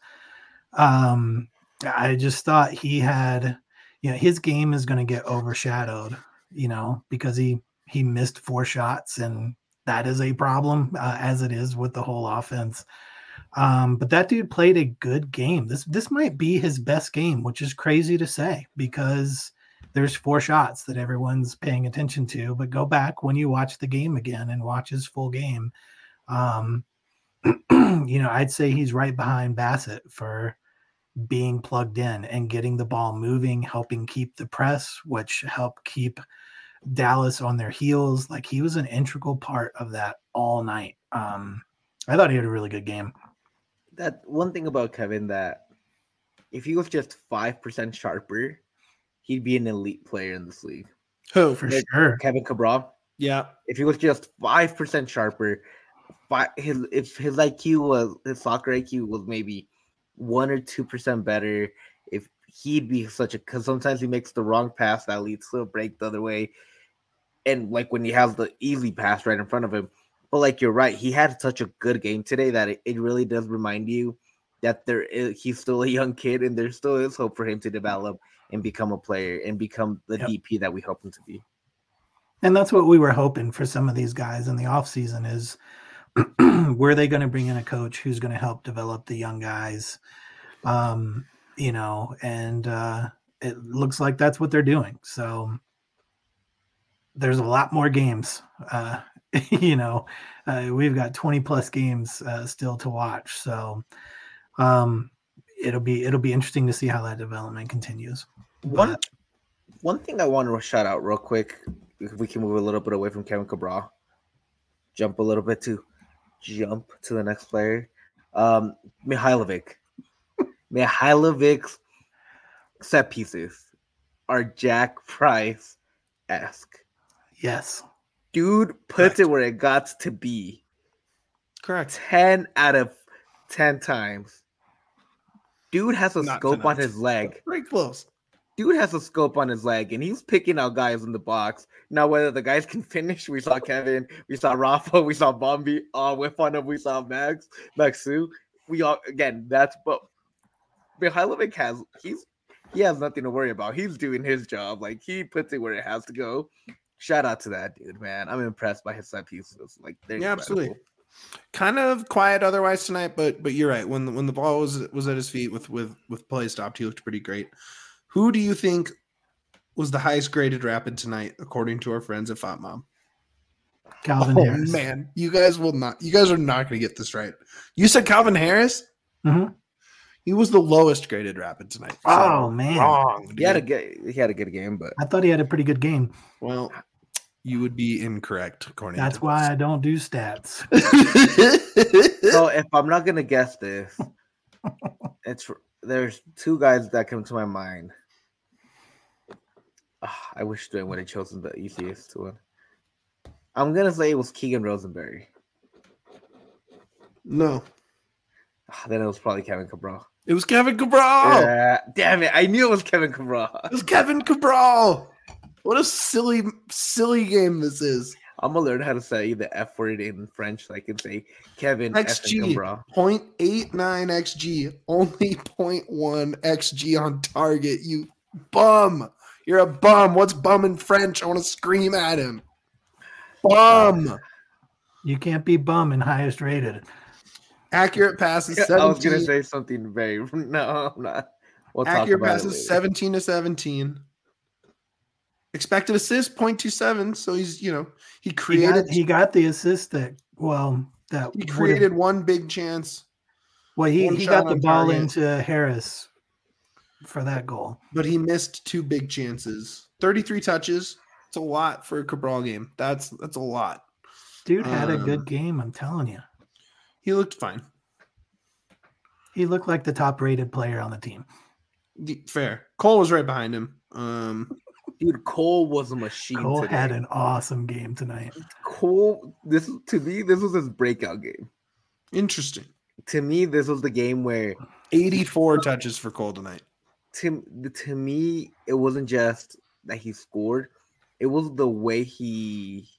[SPEAKER 3] I just thought he had, you know, his game is going to get overshadowed, you know, because he missed 4 shots, and that is a problem as it is with the whole offense. But that dude played a good game. This might be his best game, which is crazy to say because there's 4 shots that everyone's paying attention to. But go back when you watch the game again and watch his full game. You know, I'd say he's right behind Bassett for being plugged in and getting the ball moving, helping keep the press, which helped keep Dallas on their heels. Like, he was an integral part of that all night. I thought he had a really good game.
[SPEAKER 2] That one thing about Kevin, that if he was just 5% sharper, he'd be an elite player in this league.
[SPEAKER 1] Who?
[SPEAKER 3] For sure.
[SPEAKER 2] Kevin Cabral.
[SPEAKER 1] Yeah.
[SPEAKER 2] If he was just 5% sharper, if his IQ was, his soccer IQ was maybe 1 or 2% better, if he'd be because sometimes he makes the wrong pass that leads to a break the other way. And like when he has the easy pass right in front of him. But like, you're right, he had such a good game today that it really does remind you that he's still a young kid and there still is hope for him to develop and become a player and become the DP that we hope him to be.
[SPEAKER 3] And that's what we were hoping for some of these guys in the offseason is were they going to bring in a coach who's going to help develop the young guys? And it looks like that's what they're doing. So there's a lot more games. We've got 20 plus games still to watch. So it'll be interesting to see how that development continues.
[SPEAKER 2] One thing I want to shout out real quick, if we can move a little bit away from Kevin Cabral, jump to the next player, Mihailovic. Mihailovic's set pieces are Jack Price-esque.
[SPEAKER 3] Yes.
[SPEAKER 2] Dude puts it where it got to be.
[SPEAKER 1] Correct.
[SPEAKER 2] 10 out of 10 times. Dude has a scope on his leg.
[SPEAKER 1] Very close.
[SPEAKER 2] Dude has a scope on his leg, and he's picking out guys in the box. Now, whether the guys can finish, we saw Kevin, we saw Rafa, we saw Bombi, whip on him, we saw Maxu. But Mihailovic he has nothing to worry about. He's doing his job. Like, he puts it where it has to go. Shout out to that dude, man. I'm impressed by his set pieces. Like, they're
[SPEAKER 1] absolutely. Kind of quiet otherwise tonight, but you're right. When the ball was at his feet with play stopped, he looked pretty great. Who do you think was the highest graded Rapid tonight, according to our friends at FotMob?
[SPEAKER 3] Calvin Harris.
[SPEAKER 1] Man, you guys are not going to get this right. You said Calvin Harris?
[SPEAKER 3] Mm-hmm.
[SPEAKER 1] He was the lowest graded Rapid tonight.
[SPEAKER 3] So man,
[SPEAKER 2] wrong. He had a good game, but
[SPEAKER 3] I thought he had a pretty good game.
[SPEAKER 1] Well, you would be incorrect, according.
[SPEAKER 3] That's why I don't do stats.
[SPEAKER 2] So if I'm not gonna guess this, there's two guys that come to my mind. I wish Dwayne would have chosen the easiest one. I'm gonna say it was Keegan Rosenberry.
[SPEAKER 1] No.
[SPEAKER 2] Then it was probably Kevin Cabral.
[SPEAKER 1] It was Kevin Cabral.
[SPEAKER 2] Yeah, damn it! I knew it was Kevin Cabral.
[SPEAKER 1] It was Kevin Cabral. What a silly game this is.
[SPEAKER 2] I'm gonna learn how to say the F word in French so I can say Kevin
[SPEAKER 1] XG 0.89 XG, only 0.1 XG on target. You bum. You're a bum. What's bum in French? I want to scream at him. Bum.
[SPEAKER 3] You can't be bum and highest rated.
[SPEAKER 1] Accurate passes 17.
[SPEAKER 2] I was gonna say something very no, I'm not. We'll
[SPEAKER 1] accurate passes 17 to 17. Expected assist 0.27. So he created.
[SPEAKER 3] He got the assist that
[SPEAKER 1] he created one big chance.
[SPEAKER 3] Well, he got the ball into Harris for that goal,
[SPEAKER 1] but he missed two big chances. 33 touches. It's a lot for a Cabral game. That's a lot.
[SPEAKER 3] Dude had a good game. I'm telling you.
[SPEAKER 1] He looked fine.
[SPEAKER 3] He looked like the top-rated player on the team.
[SPEAKER 1] Fair. Cole was right behind him.
[SPEAKER 2] Dude, Cole was a machine.
[SPEAKER 3] Cole
[SPEAKER 2] today.
[SPEAKER 3] had an awesome game tonight.
[SPEAKER 2] Cole, this was his breakout game.
[SPEAKER 1] Interesting.
[SPEAKER 2] To me, this was the game where
[SPEAKER 1] 84 touches for Cole tonight.
[SPEAKER 2] To me, it wasn't just that he scored; it was the way he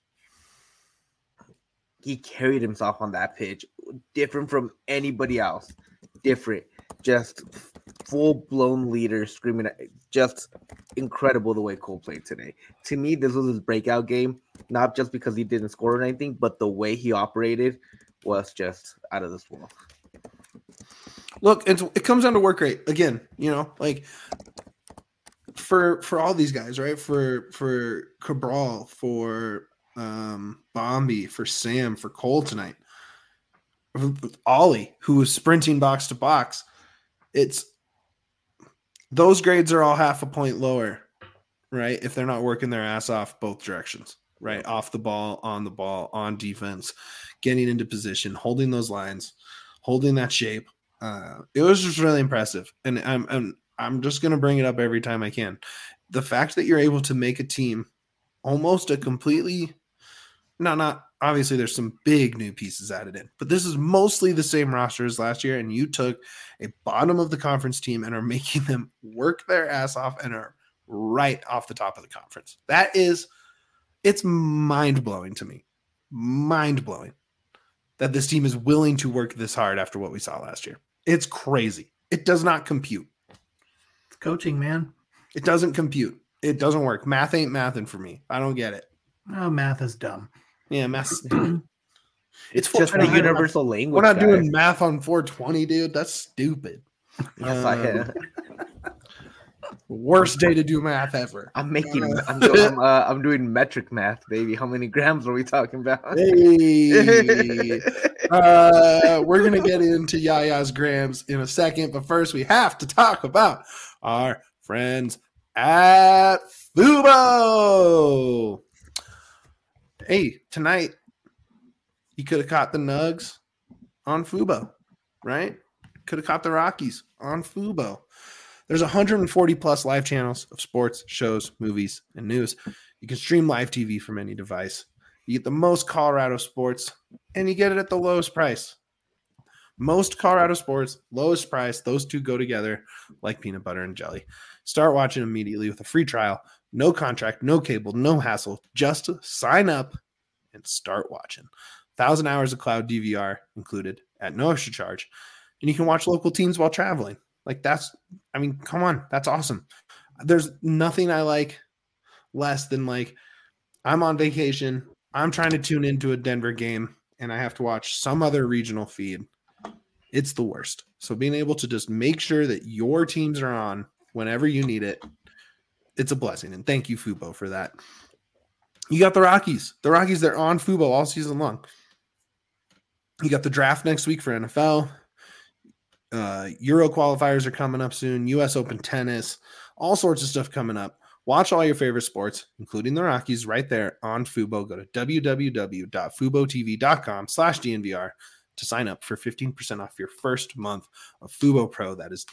[SPEAKER 2] carried himself on that pitch, different from anybody else. Different, just full-blown leader screaming. Just incredible the way Cole played today. To me, this was his breakout game, not just because he didn't score or anything, but the way he operated was just out of this world.
[SPEAKER 1] Look, it comes down to work rate again. Like for all these guys, right? For Cabral, for Bombi, for Sam, for Cole tonight, Ollie, who was sprinting box to box. It's those grades are all half a point lower, right? If they're not working their ass off both directions, right? Off the ball, on defense, getting into position, holding those lines, holding that shape. It was just really impressive. And I'm just going to bring it up every time I can. The fact that you're able to make a team almost a completely, not obviously there's some big new pieces added in, but this is mostly the same roster as last year. And you took a bottom of the conference team and are making them work their ass off and are right off the top of the conference. It's mind blowing to me. Mind blowing that this team is willing to work this hard after what we saw last year. It's crazy. It does not compute.
[SPEAKER 3] It's coaching, man.
[SPEAKER 1] It doesn't compute. It doesn't work. Math ain't mathing for me. I don't get it.
[SPEAKER 3] Oh, math is dumb.
[SPEAKER 1] Yeah, math's
[SPEAKER 2] it's just a universal language.
[SPEAKER 1] We're not doing math on 420, dude. That's stupid. Worst day to do math ever.
[SPEAKER 2] I'm doing metric math, baby. How many grams are we talking about?
[SPEAKER 1] Hey. We're gonna get into Yaya's grams in a second, but first we have to talk about our friends at Fubo. Hey, tonight you could have caught the Nugs on Fubo, right? Could have caught the Rockies on Fubo. There's 140 plus live channels of sports, shows, movies, and news. You can stream live TV from any device. You get the most Colorado sports, and you get it at the lowest price. Most Colorado sports, lowest price. Those two go together like peanut butter and jelly. Start watching immediately with a free trial. No contract, no cable, no hassle. Just sign up and start watching. 1,000 hours of cloud DVR included at no extra charge. And you can watch local teams while traveling. Come on. That's awesome. There's nothing I like less than I'm on vacation. I'm trying to tune into a Denver game and I have to watch some other regional feed. It's the worst. So being able to just make sure that your teams are on whenever you need it, it's a blessing. And thank you, Fubo, for that. You got the Rockies. The Rockies, they're on Fubo all season long. You got the draft next week for NFL. Euro qualifiers are coming up soon. US Open tennis, all sorts of stuff coming up. Watch all your favorite sports, including the Rockies, right there on Fubo. Go to www.fubotv.com/DNVR to sign up for 15% off your first month of Fubo Pro. That is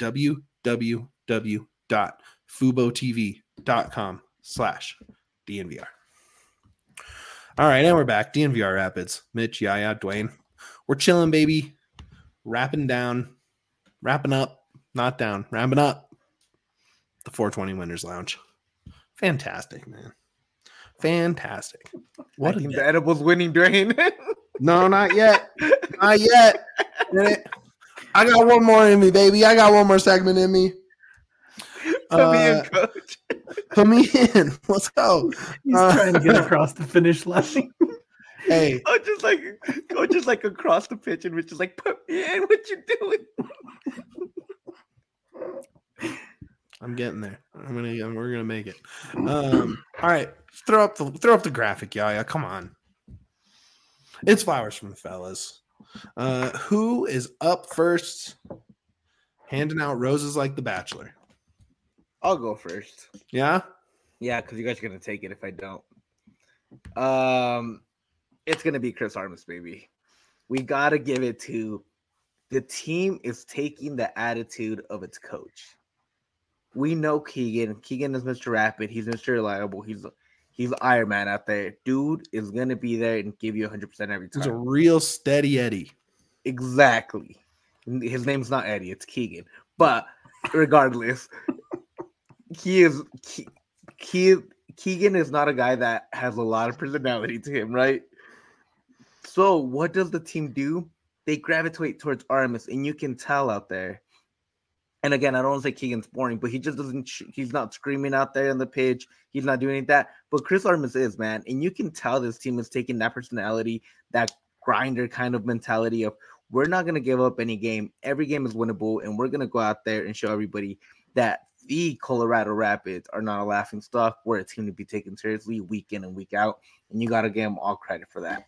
[SPEAKER 1] www.fubotv.com/DNVR. All right, and we're back. DNVR Rapids. Mitch, Yaya, Dwayne. We're chilling, baby. Wrapping up, not down, wrapping up the 420 Winners Lounge. Fantastic, man. Fantastic.
[SPEAKER 2] What the edibles winning, Dwayne?
[SPEAKER 1] No, not yet. Not yet. I got one more in me, baby. I got one more segment in me.
[SPEAKER 2] Put me in, coach.
[SPEAKER 1] Put me in. Let's go.
[SPEAKER 3] He's trying to get across the finish line.
[SPEAKER 1] Hey.
[SPEAKER 2] Go just across the pitch and we're just like, put me in. What you doing?
[SPEAKER 1] I'm getting there. We're gonna make it. All right. Throw up the graphic, Yaya. Come on. It's flowers from the fellas. Who is up first? Handing out roses like the Bachelor.
[SPEAKER 2] I'll go first.
[SPEAKER 1] Yeah?
[SPEAKER 2] Yeah, because you guys are gonna take it if I don't. It's gonna be Chris Armas, baby. We gotta give it to the team is taking the attitude of its coach. We know Keegan. Keegan is Mr. Rapid. He's Mr. Reliable. He's Iron Man out there. Dude is gonna be there and give you 100% every time.
[SPEAKER 1] He's a real steady Eddie.
[SPEAKER 2] Exactly. His name's not Eddie. It's Keegan. But regardless, Keegan is not a guy that has a lot of personality to him, right? So what does the team do? They gravitate towards Armas, and you can tell out there. And again, I don't want to say Keegan's boring, but he just doesn't. He's not screaming out there on the pitch. He's not doing any of that. But Chris Armas is, man, and you can tell this team is taking that personality, that grinder kind of mentality of we're not going to give up any game. Every game is winnable, and we're going to go out there and show everybody that the Colorado Rapids are not a laughing stock. We're a team to be taken seriously week in and week out, and you got to give them all credit for that.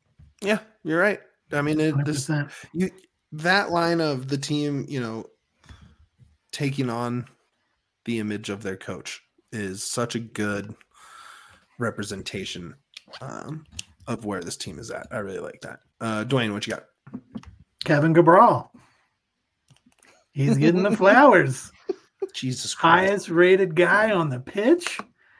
[SPEAKER 1] Yeah, you're right. I mean, that line of the team, taking on the image of their coach is such a good representation of where this team is at. I really like that. Dwayne, what you got?
[SPEAKER 3] Kevin Cabral. He's getting the flowers.
[SPEAKER 1] Jesus Christ.
[SPEAKER 3] Highest rated guy on the pitch.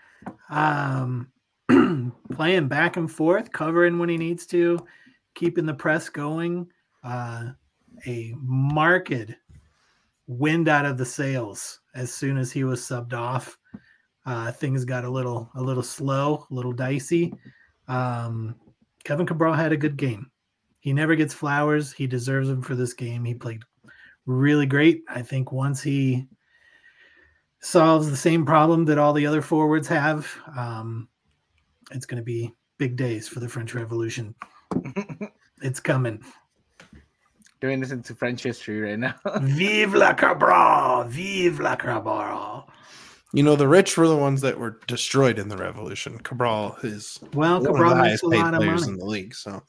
[SPEAKER 3] Playing back and forth, covering when he needs to, keeping the press going. A marked wind out of the sails as soon as he was subbed off. Things got a little slow, a little dicey. Kevin Cabral had a good game. He never gets flowers. He deserves them for this game. He played really great. I think once he solves the same problem that all the other forwards have, it's going to be big days for the French Revolution. It's coming.
[SPEAKER 2] Doing this into French history right now.
[SPEAKER 3] Vive la Cabral! Vive la Cabral!
[SPEAKER 1] You know, the rich were the ones that were destroyed in the revolution. Cabral is one of the highest paid players in the league. So,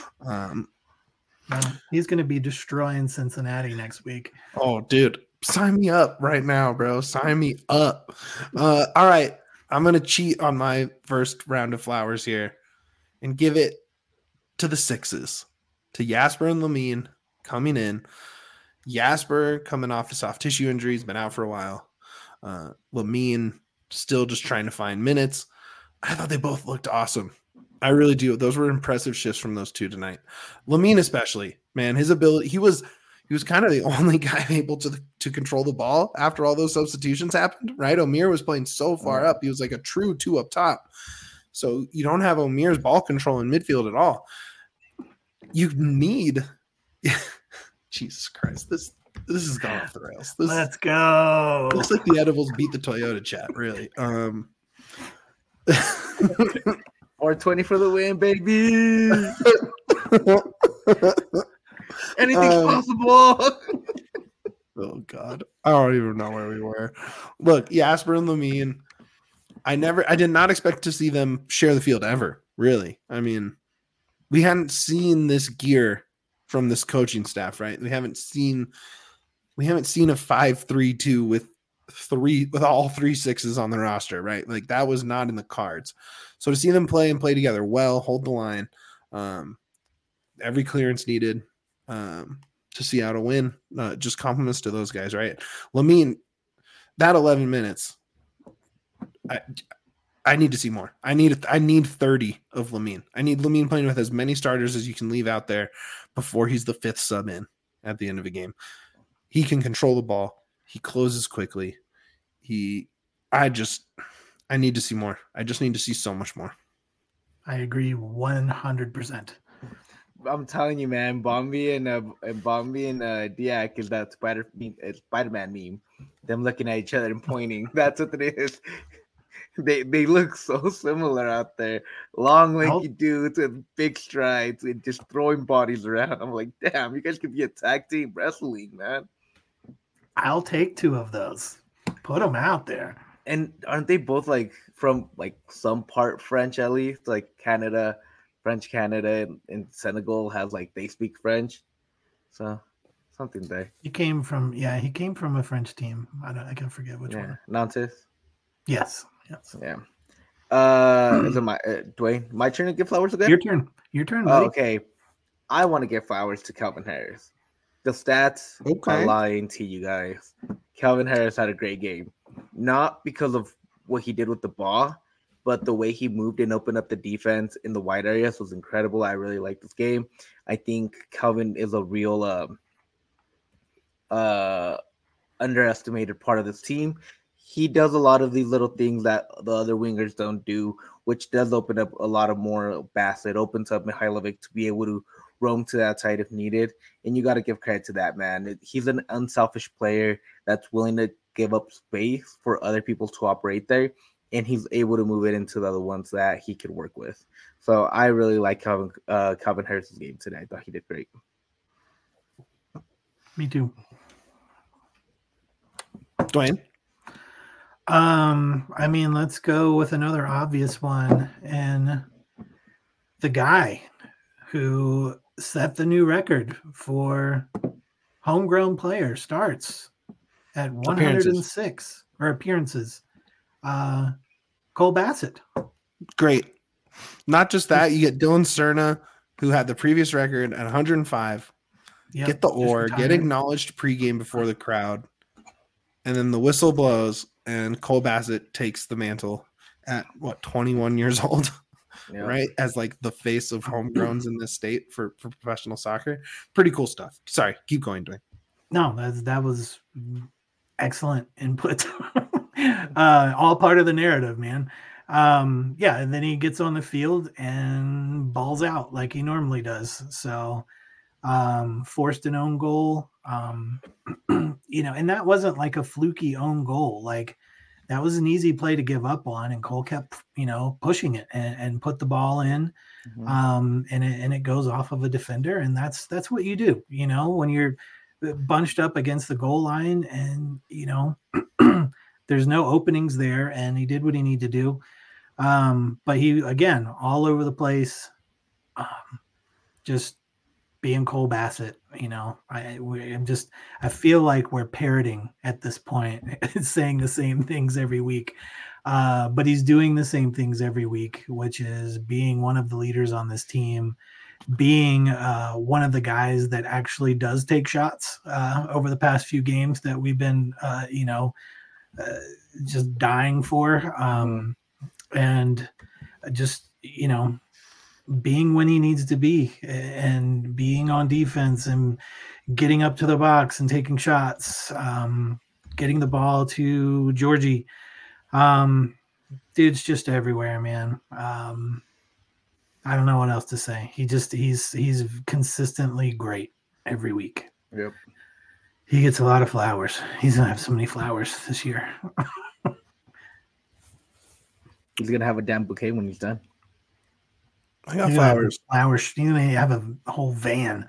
[SPEAKER 3] he's going to be destroying Cincinnati next week.
[SPEAKER 1] Oh, dude, sign me up right now, bro. Sign me up. All right, I'm going to cheat on my first round of flowers here and give it to the sixes, to Jasper and Lamine coming in. Jasper coming off a soft tissue injury, he's been out for a while. Lamine still just trying to find minutes. I thought they both looked awesome. I really do. Those were impressive shifts from those two tonight. Lamine especially, man, his ability, he was kind of the only guy able to control the ball after all those substitutions happened, right? Omir was playing so far up. He was like a true two up top. So you don't have Omir's ball control in midfield at all. You need Jesus Christ. This has gone off the rails.
[SPEAKER 3] Let's go.
[SPEAKER 1] Looks like the edibles beat the Toyota chat, really.
[SPEAKER 2] 420 for the win, baby. Anything's possible.
[SPEAKER 1] Oh God. I don't even know where we were. Look, Jasper and Lamine. I did not expect to see them share the field ever, really. I mean, we hadn't seen this gear from this coaching staff, right? We haven't seen a 5-3-2 with all 3 sixes on the roster, right? Like that was not in the cards. So to see them play together well, hold the line, every clearance needed to see out a win, just compliments to those guys, right? Lamine, that 11 minutes, I need to see more. I need 30 of Lamine. I need Lamine playing with as many starters as you can leave out there before he's the 5th sub in at the end of a game. He can control the ball. He closes quickly. I need to see more. I just need to see so much more.
[SPEAKER 3] I agree 100%.
[SPEAKER 2] I'm telling you, man, Bombi and Diak is that Spider-Man meme. Them looking at each other and pointing. That's what it is. They look so similar out there. Long, lanky dudes with big strides and just throwing bodies around. I'm like, damn, you guys could be a tag team wrestling, man.
[SPEAKER 3] I'll take 2 of those. Put them out there.
[SPEAKER 2] And aren't they both like from like some part French at least? Like Canada, French Canada, and Senegal has like they speak French. So something there.
[SPEAKER 3] He came from a French team. I can forget which one.
[SPEAKER 2] Nantes.
[SPEAKER 3] Yes.
[SPEAKER 2] Yeah. Is it my Dwayne? My turn to give flowers again?
[SPEAKER 3] Your turn. Buddy.
[SPEAKER 2] Okay. I want to give flowers to Calvin Harris. The stats are lying to you guys. Calvin Harris had a great game. Not because of what he did with the ball, but the way he moved and opened up the defense in the wide areas was incredible. I really like this game. I think Calvin is a real underestimated part of this team. He does a lot of these little things that the other wingers don't do, which does open up a lot of more Bassett. It opens up Mihailovic to be able to roam to that side if needed. And you got to give credit to that, man. He's an unselfish player that's willing to give up space for other people to operate there. And he's able to move it into the other ones that he could work with. So I really like Calvin Harris's game today. I thought he did great.
[SPEAKER 3] Me too.
[SPEAKER 1] Dwayne?
[SPEAKER 3] I mean, let's go with another obvious one. And the guy who set the new record for homegrown player starts at 106 appearances. Cole Bassett.
[SPEAKER 1] Great. Not just that, you get Dylan Cerna, who had the previous record at 105. Yep, get the oar, get acknowledged pregame before the crowd, and then the whistle blows, and Cole Bassett takes the mantle at 21 years old, right? As like the face of homegrowns in this state for professional soccer. Pretty cool stuff. Sorry, keep going, Dwayne.
[SPEAKER 3] No, that was excellent input. All part of the narrative, man. And then he gets on the field and balls out like he normally does. So forced an own goal, and that wasn't like a fluky own goal. Like that was an easy play to give up on, and Cole kept, pushing it and put the ball in. And it goes off of a defender, and that's what you do, when you're bunched up against the goal line, and there's no openings there, and he did what he needed to do. But he, again, all over the place, just being Cole Bassett. I feel like we're parroting at this point, saying the same things every week. But he's doing the same things every week, which is being one of the leaders on this team, being one of the guys that actually does take shots over the past few games that we've been, just dying for. And just, being when he needs to be, and being on defense and getting up to the box and taking shots, getting the ball to Georgie. Dude's just everywhere, man. I don't know what else to say. He's consistently great every week.
[SPEAKER 2] Yep.
[SPEAKER 3] He gets a lot of flowers. He's gonna have so many flowers this year.
[SPEAKER 2] He's gonna have a damn bouquet when he's done.
[SPEAKER 1] I got flowers.
[SPEAKER 3] Flowers. You may have a whole van.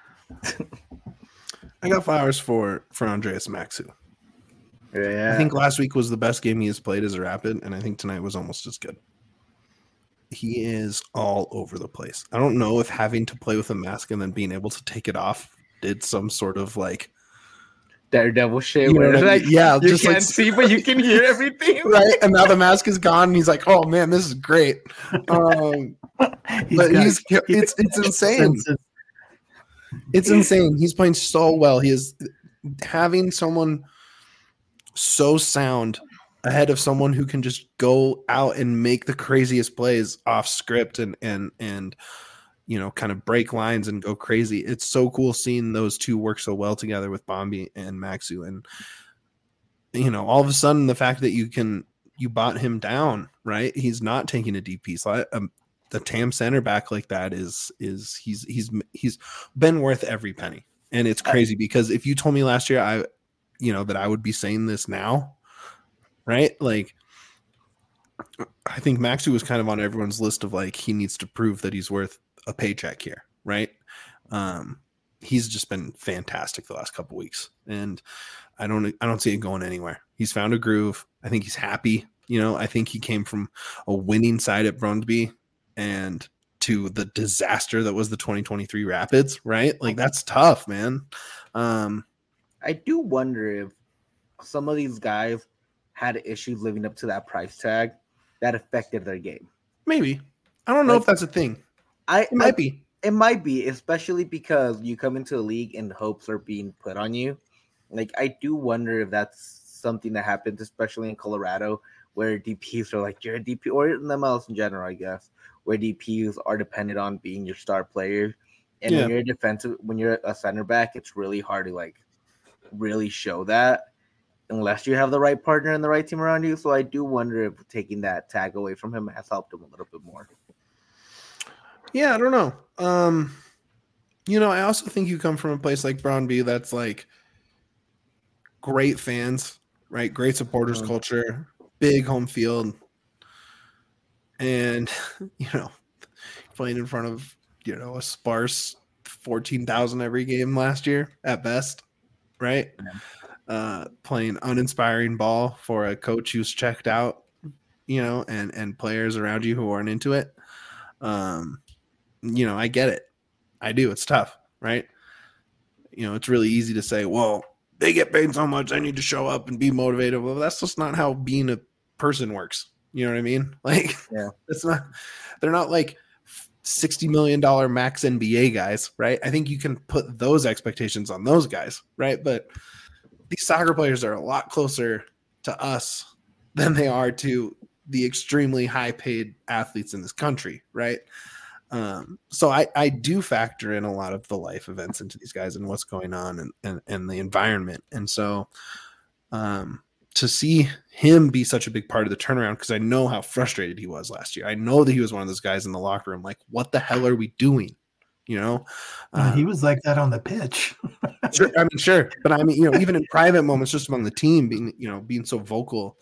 [SPEAKER 1] I got flowers for Andreas Maxu.
[SPEAKER 2] Yeah.
[SPEAKER 1] I think last week was the best game he has played as a Rapid, and I think tonight was almost as good. He is all over the place. I don't know if having to play with a mask and then being able to take it off did some sort of like
[SPEAKER 2] Daredevil shit. Where
[SPEAKER 1] like,
[SPEAKER 2] you just can't see, but you can hear everything.
[SPEAKER 1] Right. And now the mask is gone, and he's like, "Oh man, this is great." It's insane. It's insane. He's playing so well. He is having someone so sound ahead of someone who can just go out and make the craziest plays off script and kind of break lines and go crazy. It's so cool seeing those two work so well together with Bombi and Maxu. And, all of a sudden the fact that you bought him down, right? He's not taking a DP slot. The TAM center back like that he's been worth every penny. And it's crazy because if you told me last year, that I would be saying this now, right? Like, I think Maxu was kind of on everyone's list of like, he needs to prove that he's worth a paycheck here, right? He's just been fantastic the last couple weeks, and I don't see it going anywhere. He's found a groove. I think he's happy. I think he came from a winning side at Brøndby and to the disaster that was the 2023 Rapids, right? Like, that's tough, man.
[SPEAKER 2] I do wonder if some of these guys had issues living up to that price tag that affected their game.
[SPEAKER 1] Maybe. I don't know if that's a thing. It might be.
[SPEAKER 2] It might be, especially because you come into a league and hopes are being put on you. Like, I do wonder if that's something that happens, especially in Colorado, where DPs are like, you're a DP, or in the MLS in general, I guess, where DPs are dependent on being your star player. And when you're a center back, it's really hard to like really show that unless you have the right partner and the right team around you. So I do wonder if taking that tag away from him has helped him a little bit more.
[SPEAKER 1] Yeah, I don't know. I also think you come from a place like Brøndby that's like great fans, right? Great supporters culture, big home field. And, playing in front of, a sparse 14,000 every game last year at best, right? Yeah. Playing uninspiring ball for a coach who's checked out, and players around you who aren't into it. I get it. I do. It's tough, right? It's really easy to say, well, they get paid so much, I need to show up and be motivated. Well, that's just not how being a person works. You know what I mean? Like,
[SPEAKER 2] Yeah,
[SPEAKER 1] they're not like $60 million max NBA guys, right? I think you can put those expectations on those guys, right? But these soccer players are a lot closer to us than they are to the extremely high paid athletes in this country, right? So I do factor in a lot of the life events into these guys and what's going on and the environment. And so to see him be such a big part of the turnaround, because I know how frustrated he was last year. I know that he was one of those guys in the locker room, like, what the hell are we doing? You know,
[SPEAKER 3] he was like that on the pitch.
[SPEAKER 1] Sure. But I mean, you know, even in private moments, just among the team being so vocal,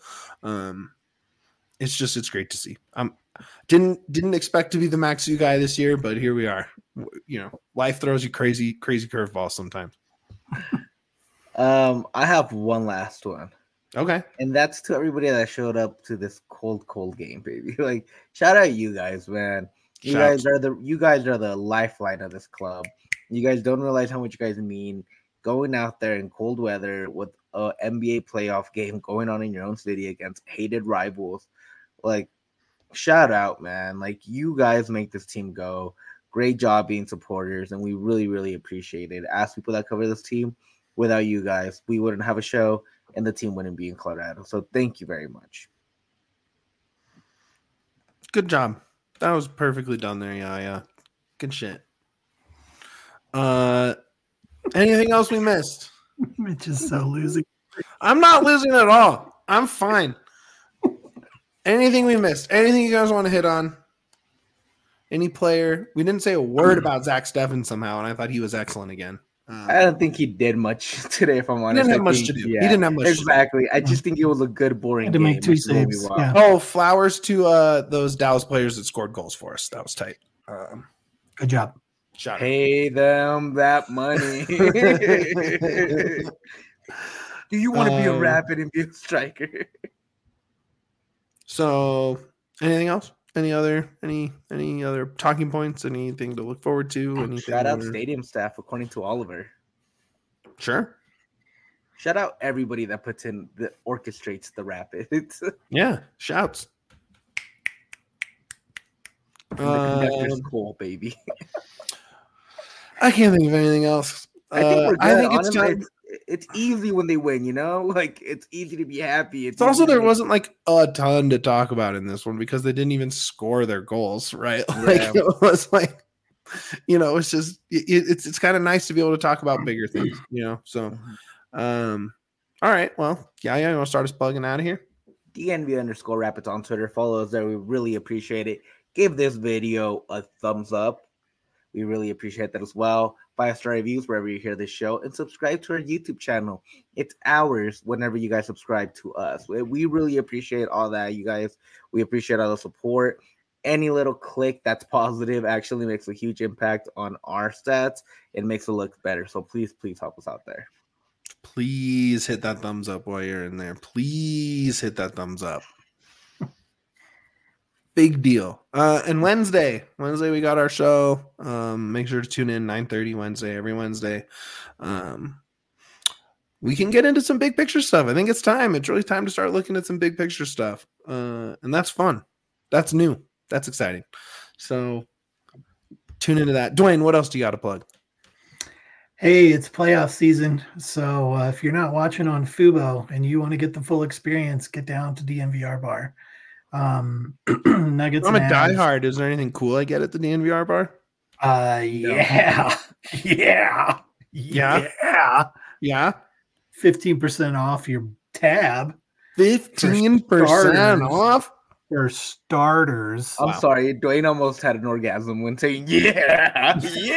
[SPEAKER 1] it's great to see. Didn't expect to be the Maxu guy this year, but here we are. You know, life throws you crazy curveballs sometimes.
[SPEAKER 2] I have one last one.
[SPEAKER 1] Okay.
[SPEAKER 2] And that's to everybody that showed up to this cold game, baby. Like, shout out you guys, man. You guys are the lifeline of this club. You guys don't realize how much you guys mean. Going out there in cold weather with a NBA playoff game going on in your own city against hated rivals. Like, shout out, man. Like, you guys make this team go. Great job being supporters, and we really, really appreciate it. As people that cover this team, without you guys, we wouldn't have a show, and the team wouldn't be in Colorado. So thank you very much.
[SPEAKER 1] Good job. That was perfectly done there. Yeah. Good shit. Anything else we missed?
[SPEAKER 3] Mitch is so losing.
[SPEAKER 1] I'm not losing at all. I'm fine. Anything we missed? Anything you guys want to hit on? Any player? We didn't say a word about Zach Steffen somehow, and I thought he was excellent again.
[SPEAKER 2] I don't think he did much today, if I'm honest.
[SPEAKER 1] He didn't have much to do. Yeah, he didn't have much
[SPEAKER 2] exactly. I just think it was a good, boring game.
[SPEAKER 3] Make 2 saves. Yeah.
[SPEAKER 1] Oh, flowers to those Dallas players that scored goals for us. That was tight.
[SPEAKER 3] Good job.
[SPEAKER 2] Pay them that money. Do you want to be a Rapid and be a striker?
[SPEAKER 1] So, anything else? Any other talking points? Anything to look forward to? Anything?
[SPEAKER 2] Shout out stadium staff, according to Oliver.
[SPEAKER 1] Sure.
[SPEAKER 2] Shout out everybody that orchestrates the Rapids.
[SPEAKER 1] Yeah, shouts.
[SPEAKER 2] The conductor's cool, baby.
[SPEAKER 1] I can't think of anything else. I think it's time.
[SPEAKER 2] It's easy when they win, you know? Like, it's easy to be happy.
[SPEAKER 1] It's also there wasn't like a ton to talk about in this one because they didn't even score their goals, right? Like, it was like, you know, it's just it's kind of nice to be able to talk about bigger things, you know? So, all right. Well, yeah, you want to start us plugging out of here?
[SPEAKER 2] DNV_Rapids on Twitter. Follow us there. We really appreciate it. Give this video a thumbs up. We really appreciate that as well. 5-star reviews wherever you hear this show, and subscribe to our YouTube channel. It's ours whenever you guys subscribe to us. We really appreciate all that, you guys. We appreciate all the support. Any little click that's positive actually makes a huge impact on our stats. It makes it look better. So please help us out there.
[SPEAKER 1] Please hit that thumbs up while you're in there. Please hit that thumbs up. Big deal. And Wednesday we got our show. Make sure to tune in 9:30 Wednesday, every Wednesday. We can get into some big picture stuff. I think it's time. It's really time to start looking at some big picture stuff. And that's fun. That's new. That's exciting. So tune into that. Dwayne, what else do you got to plug?
[SPEAKER 3] Hey, it's playoff season. So if you're not watching on Fubo and you want to get the full experience, get down to DNVR bar. Nuggets.
[SPEAKER 1] I'm a diehard. Is there anything cool I get at the DNVR bar?
[SPEAKER 3] Yeah. 15% off your tab.
[SPEAKER 1] 15% off
[SPEAKER 3] for starters.
[SPEAKER 2] I'm sorry, Dwayne almost had an orgasm when saying yeah.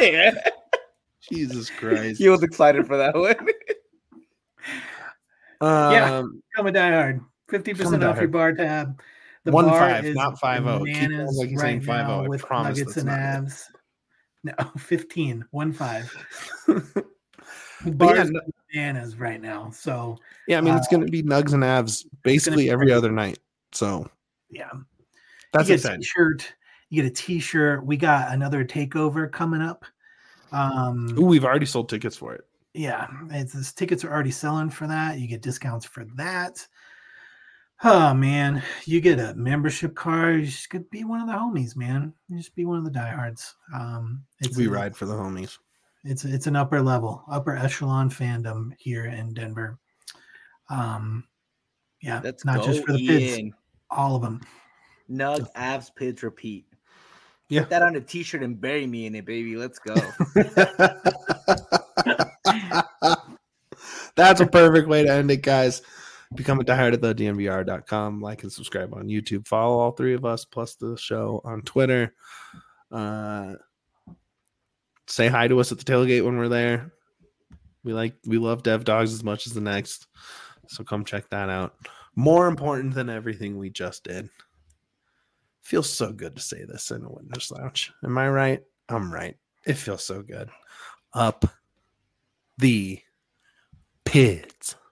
[SPEAKER 1] Jesus Christ.
[SPEAKER 2] He was excited for that one.
[SPEAKER 3] Become a diehard. 50% off your bar tab. The
[SPEAKER 1] 1-5, not 5-0.
[SPEAKER 3] Bananas
[SPEAKER 1] like
[SPEAKER 3] right
[SPEAKER 1] 5-0.
[SPEAKER 3] now with nuggets and abs. No, 15. 1-5. Bars bananas right now. So
[SPEAKER 1] yeah, I mean it's going to be nugs and abs basically every other night. So
[SPEAKER 3] yeah,
[SPEAKER 1] that's
[SPEAKER 3] you get a t-shirt. You get a t-shirt. We got another takeover coming up.
[SPEAKER 1] We've already sold tickets for it.
[SPEAKER 3] yeah, it's tickets are already selling for that. You get discounts for that. Oh man, you get a membership card. You just could be one of the homies, man. You just be one of the diehards.
[SPEAKER 1] We ride for the homies.
[SPEAKER 3] It's an upper echelon fandom here in Denver. Yeah,
[SPEAKER 2] let's
[SPEAKER 3] not
[SPEAKER 2] go,
[SPEAKER 3] just for the
[SPEAKER 2] Ian.
[SPEAKER 3] Pids, all of them.
[SPEAKER 2] Nug, abs, Pids, repeat.
[SPEAKER 1] Yeah.
[SPEAKER 2] Put that on a t-shirt and bury me in it, baby. Let's go.
[SPEAKER 1] That's a perfect way to end it, guys. Become a diehard at thednvr.com. Like and subscribe on YouTube. Follow all three of us plus the show on Twitter. Say hi to us at the tailgate when we're there. We love Dev Dogs as much as the next. So come check that out. More important than everything we just did. Feels so good to say this in a Windows Lounge. Am I right? I'm right. It feels so good. Up the Pids.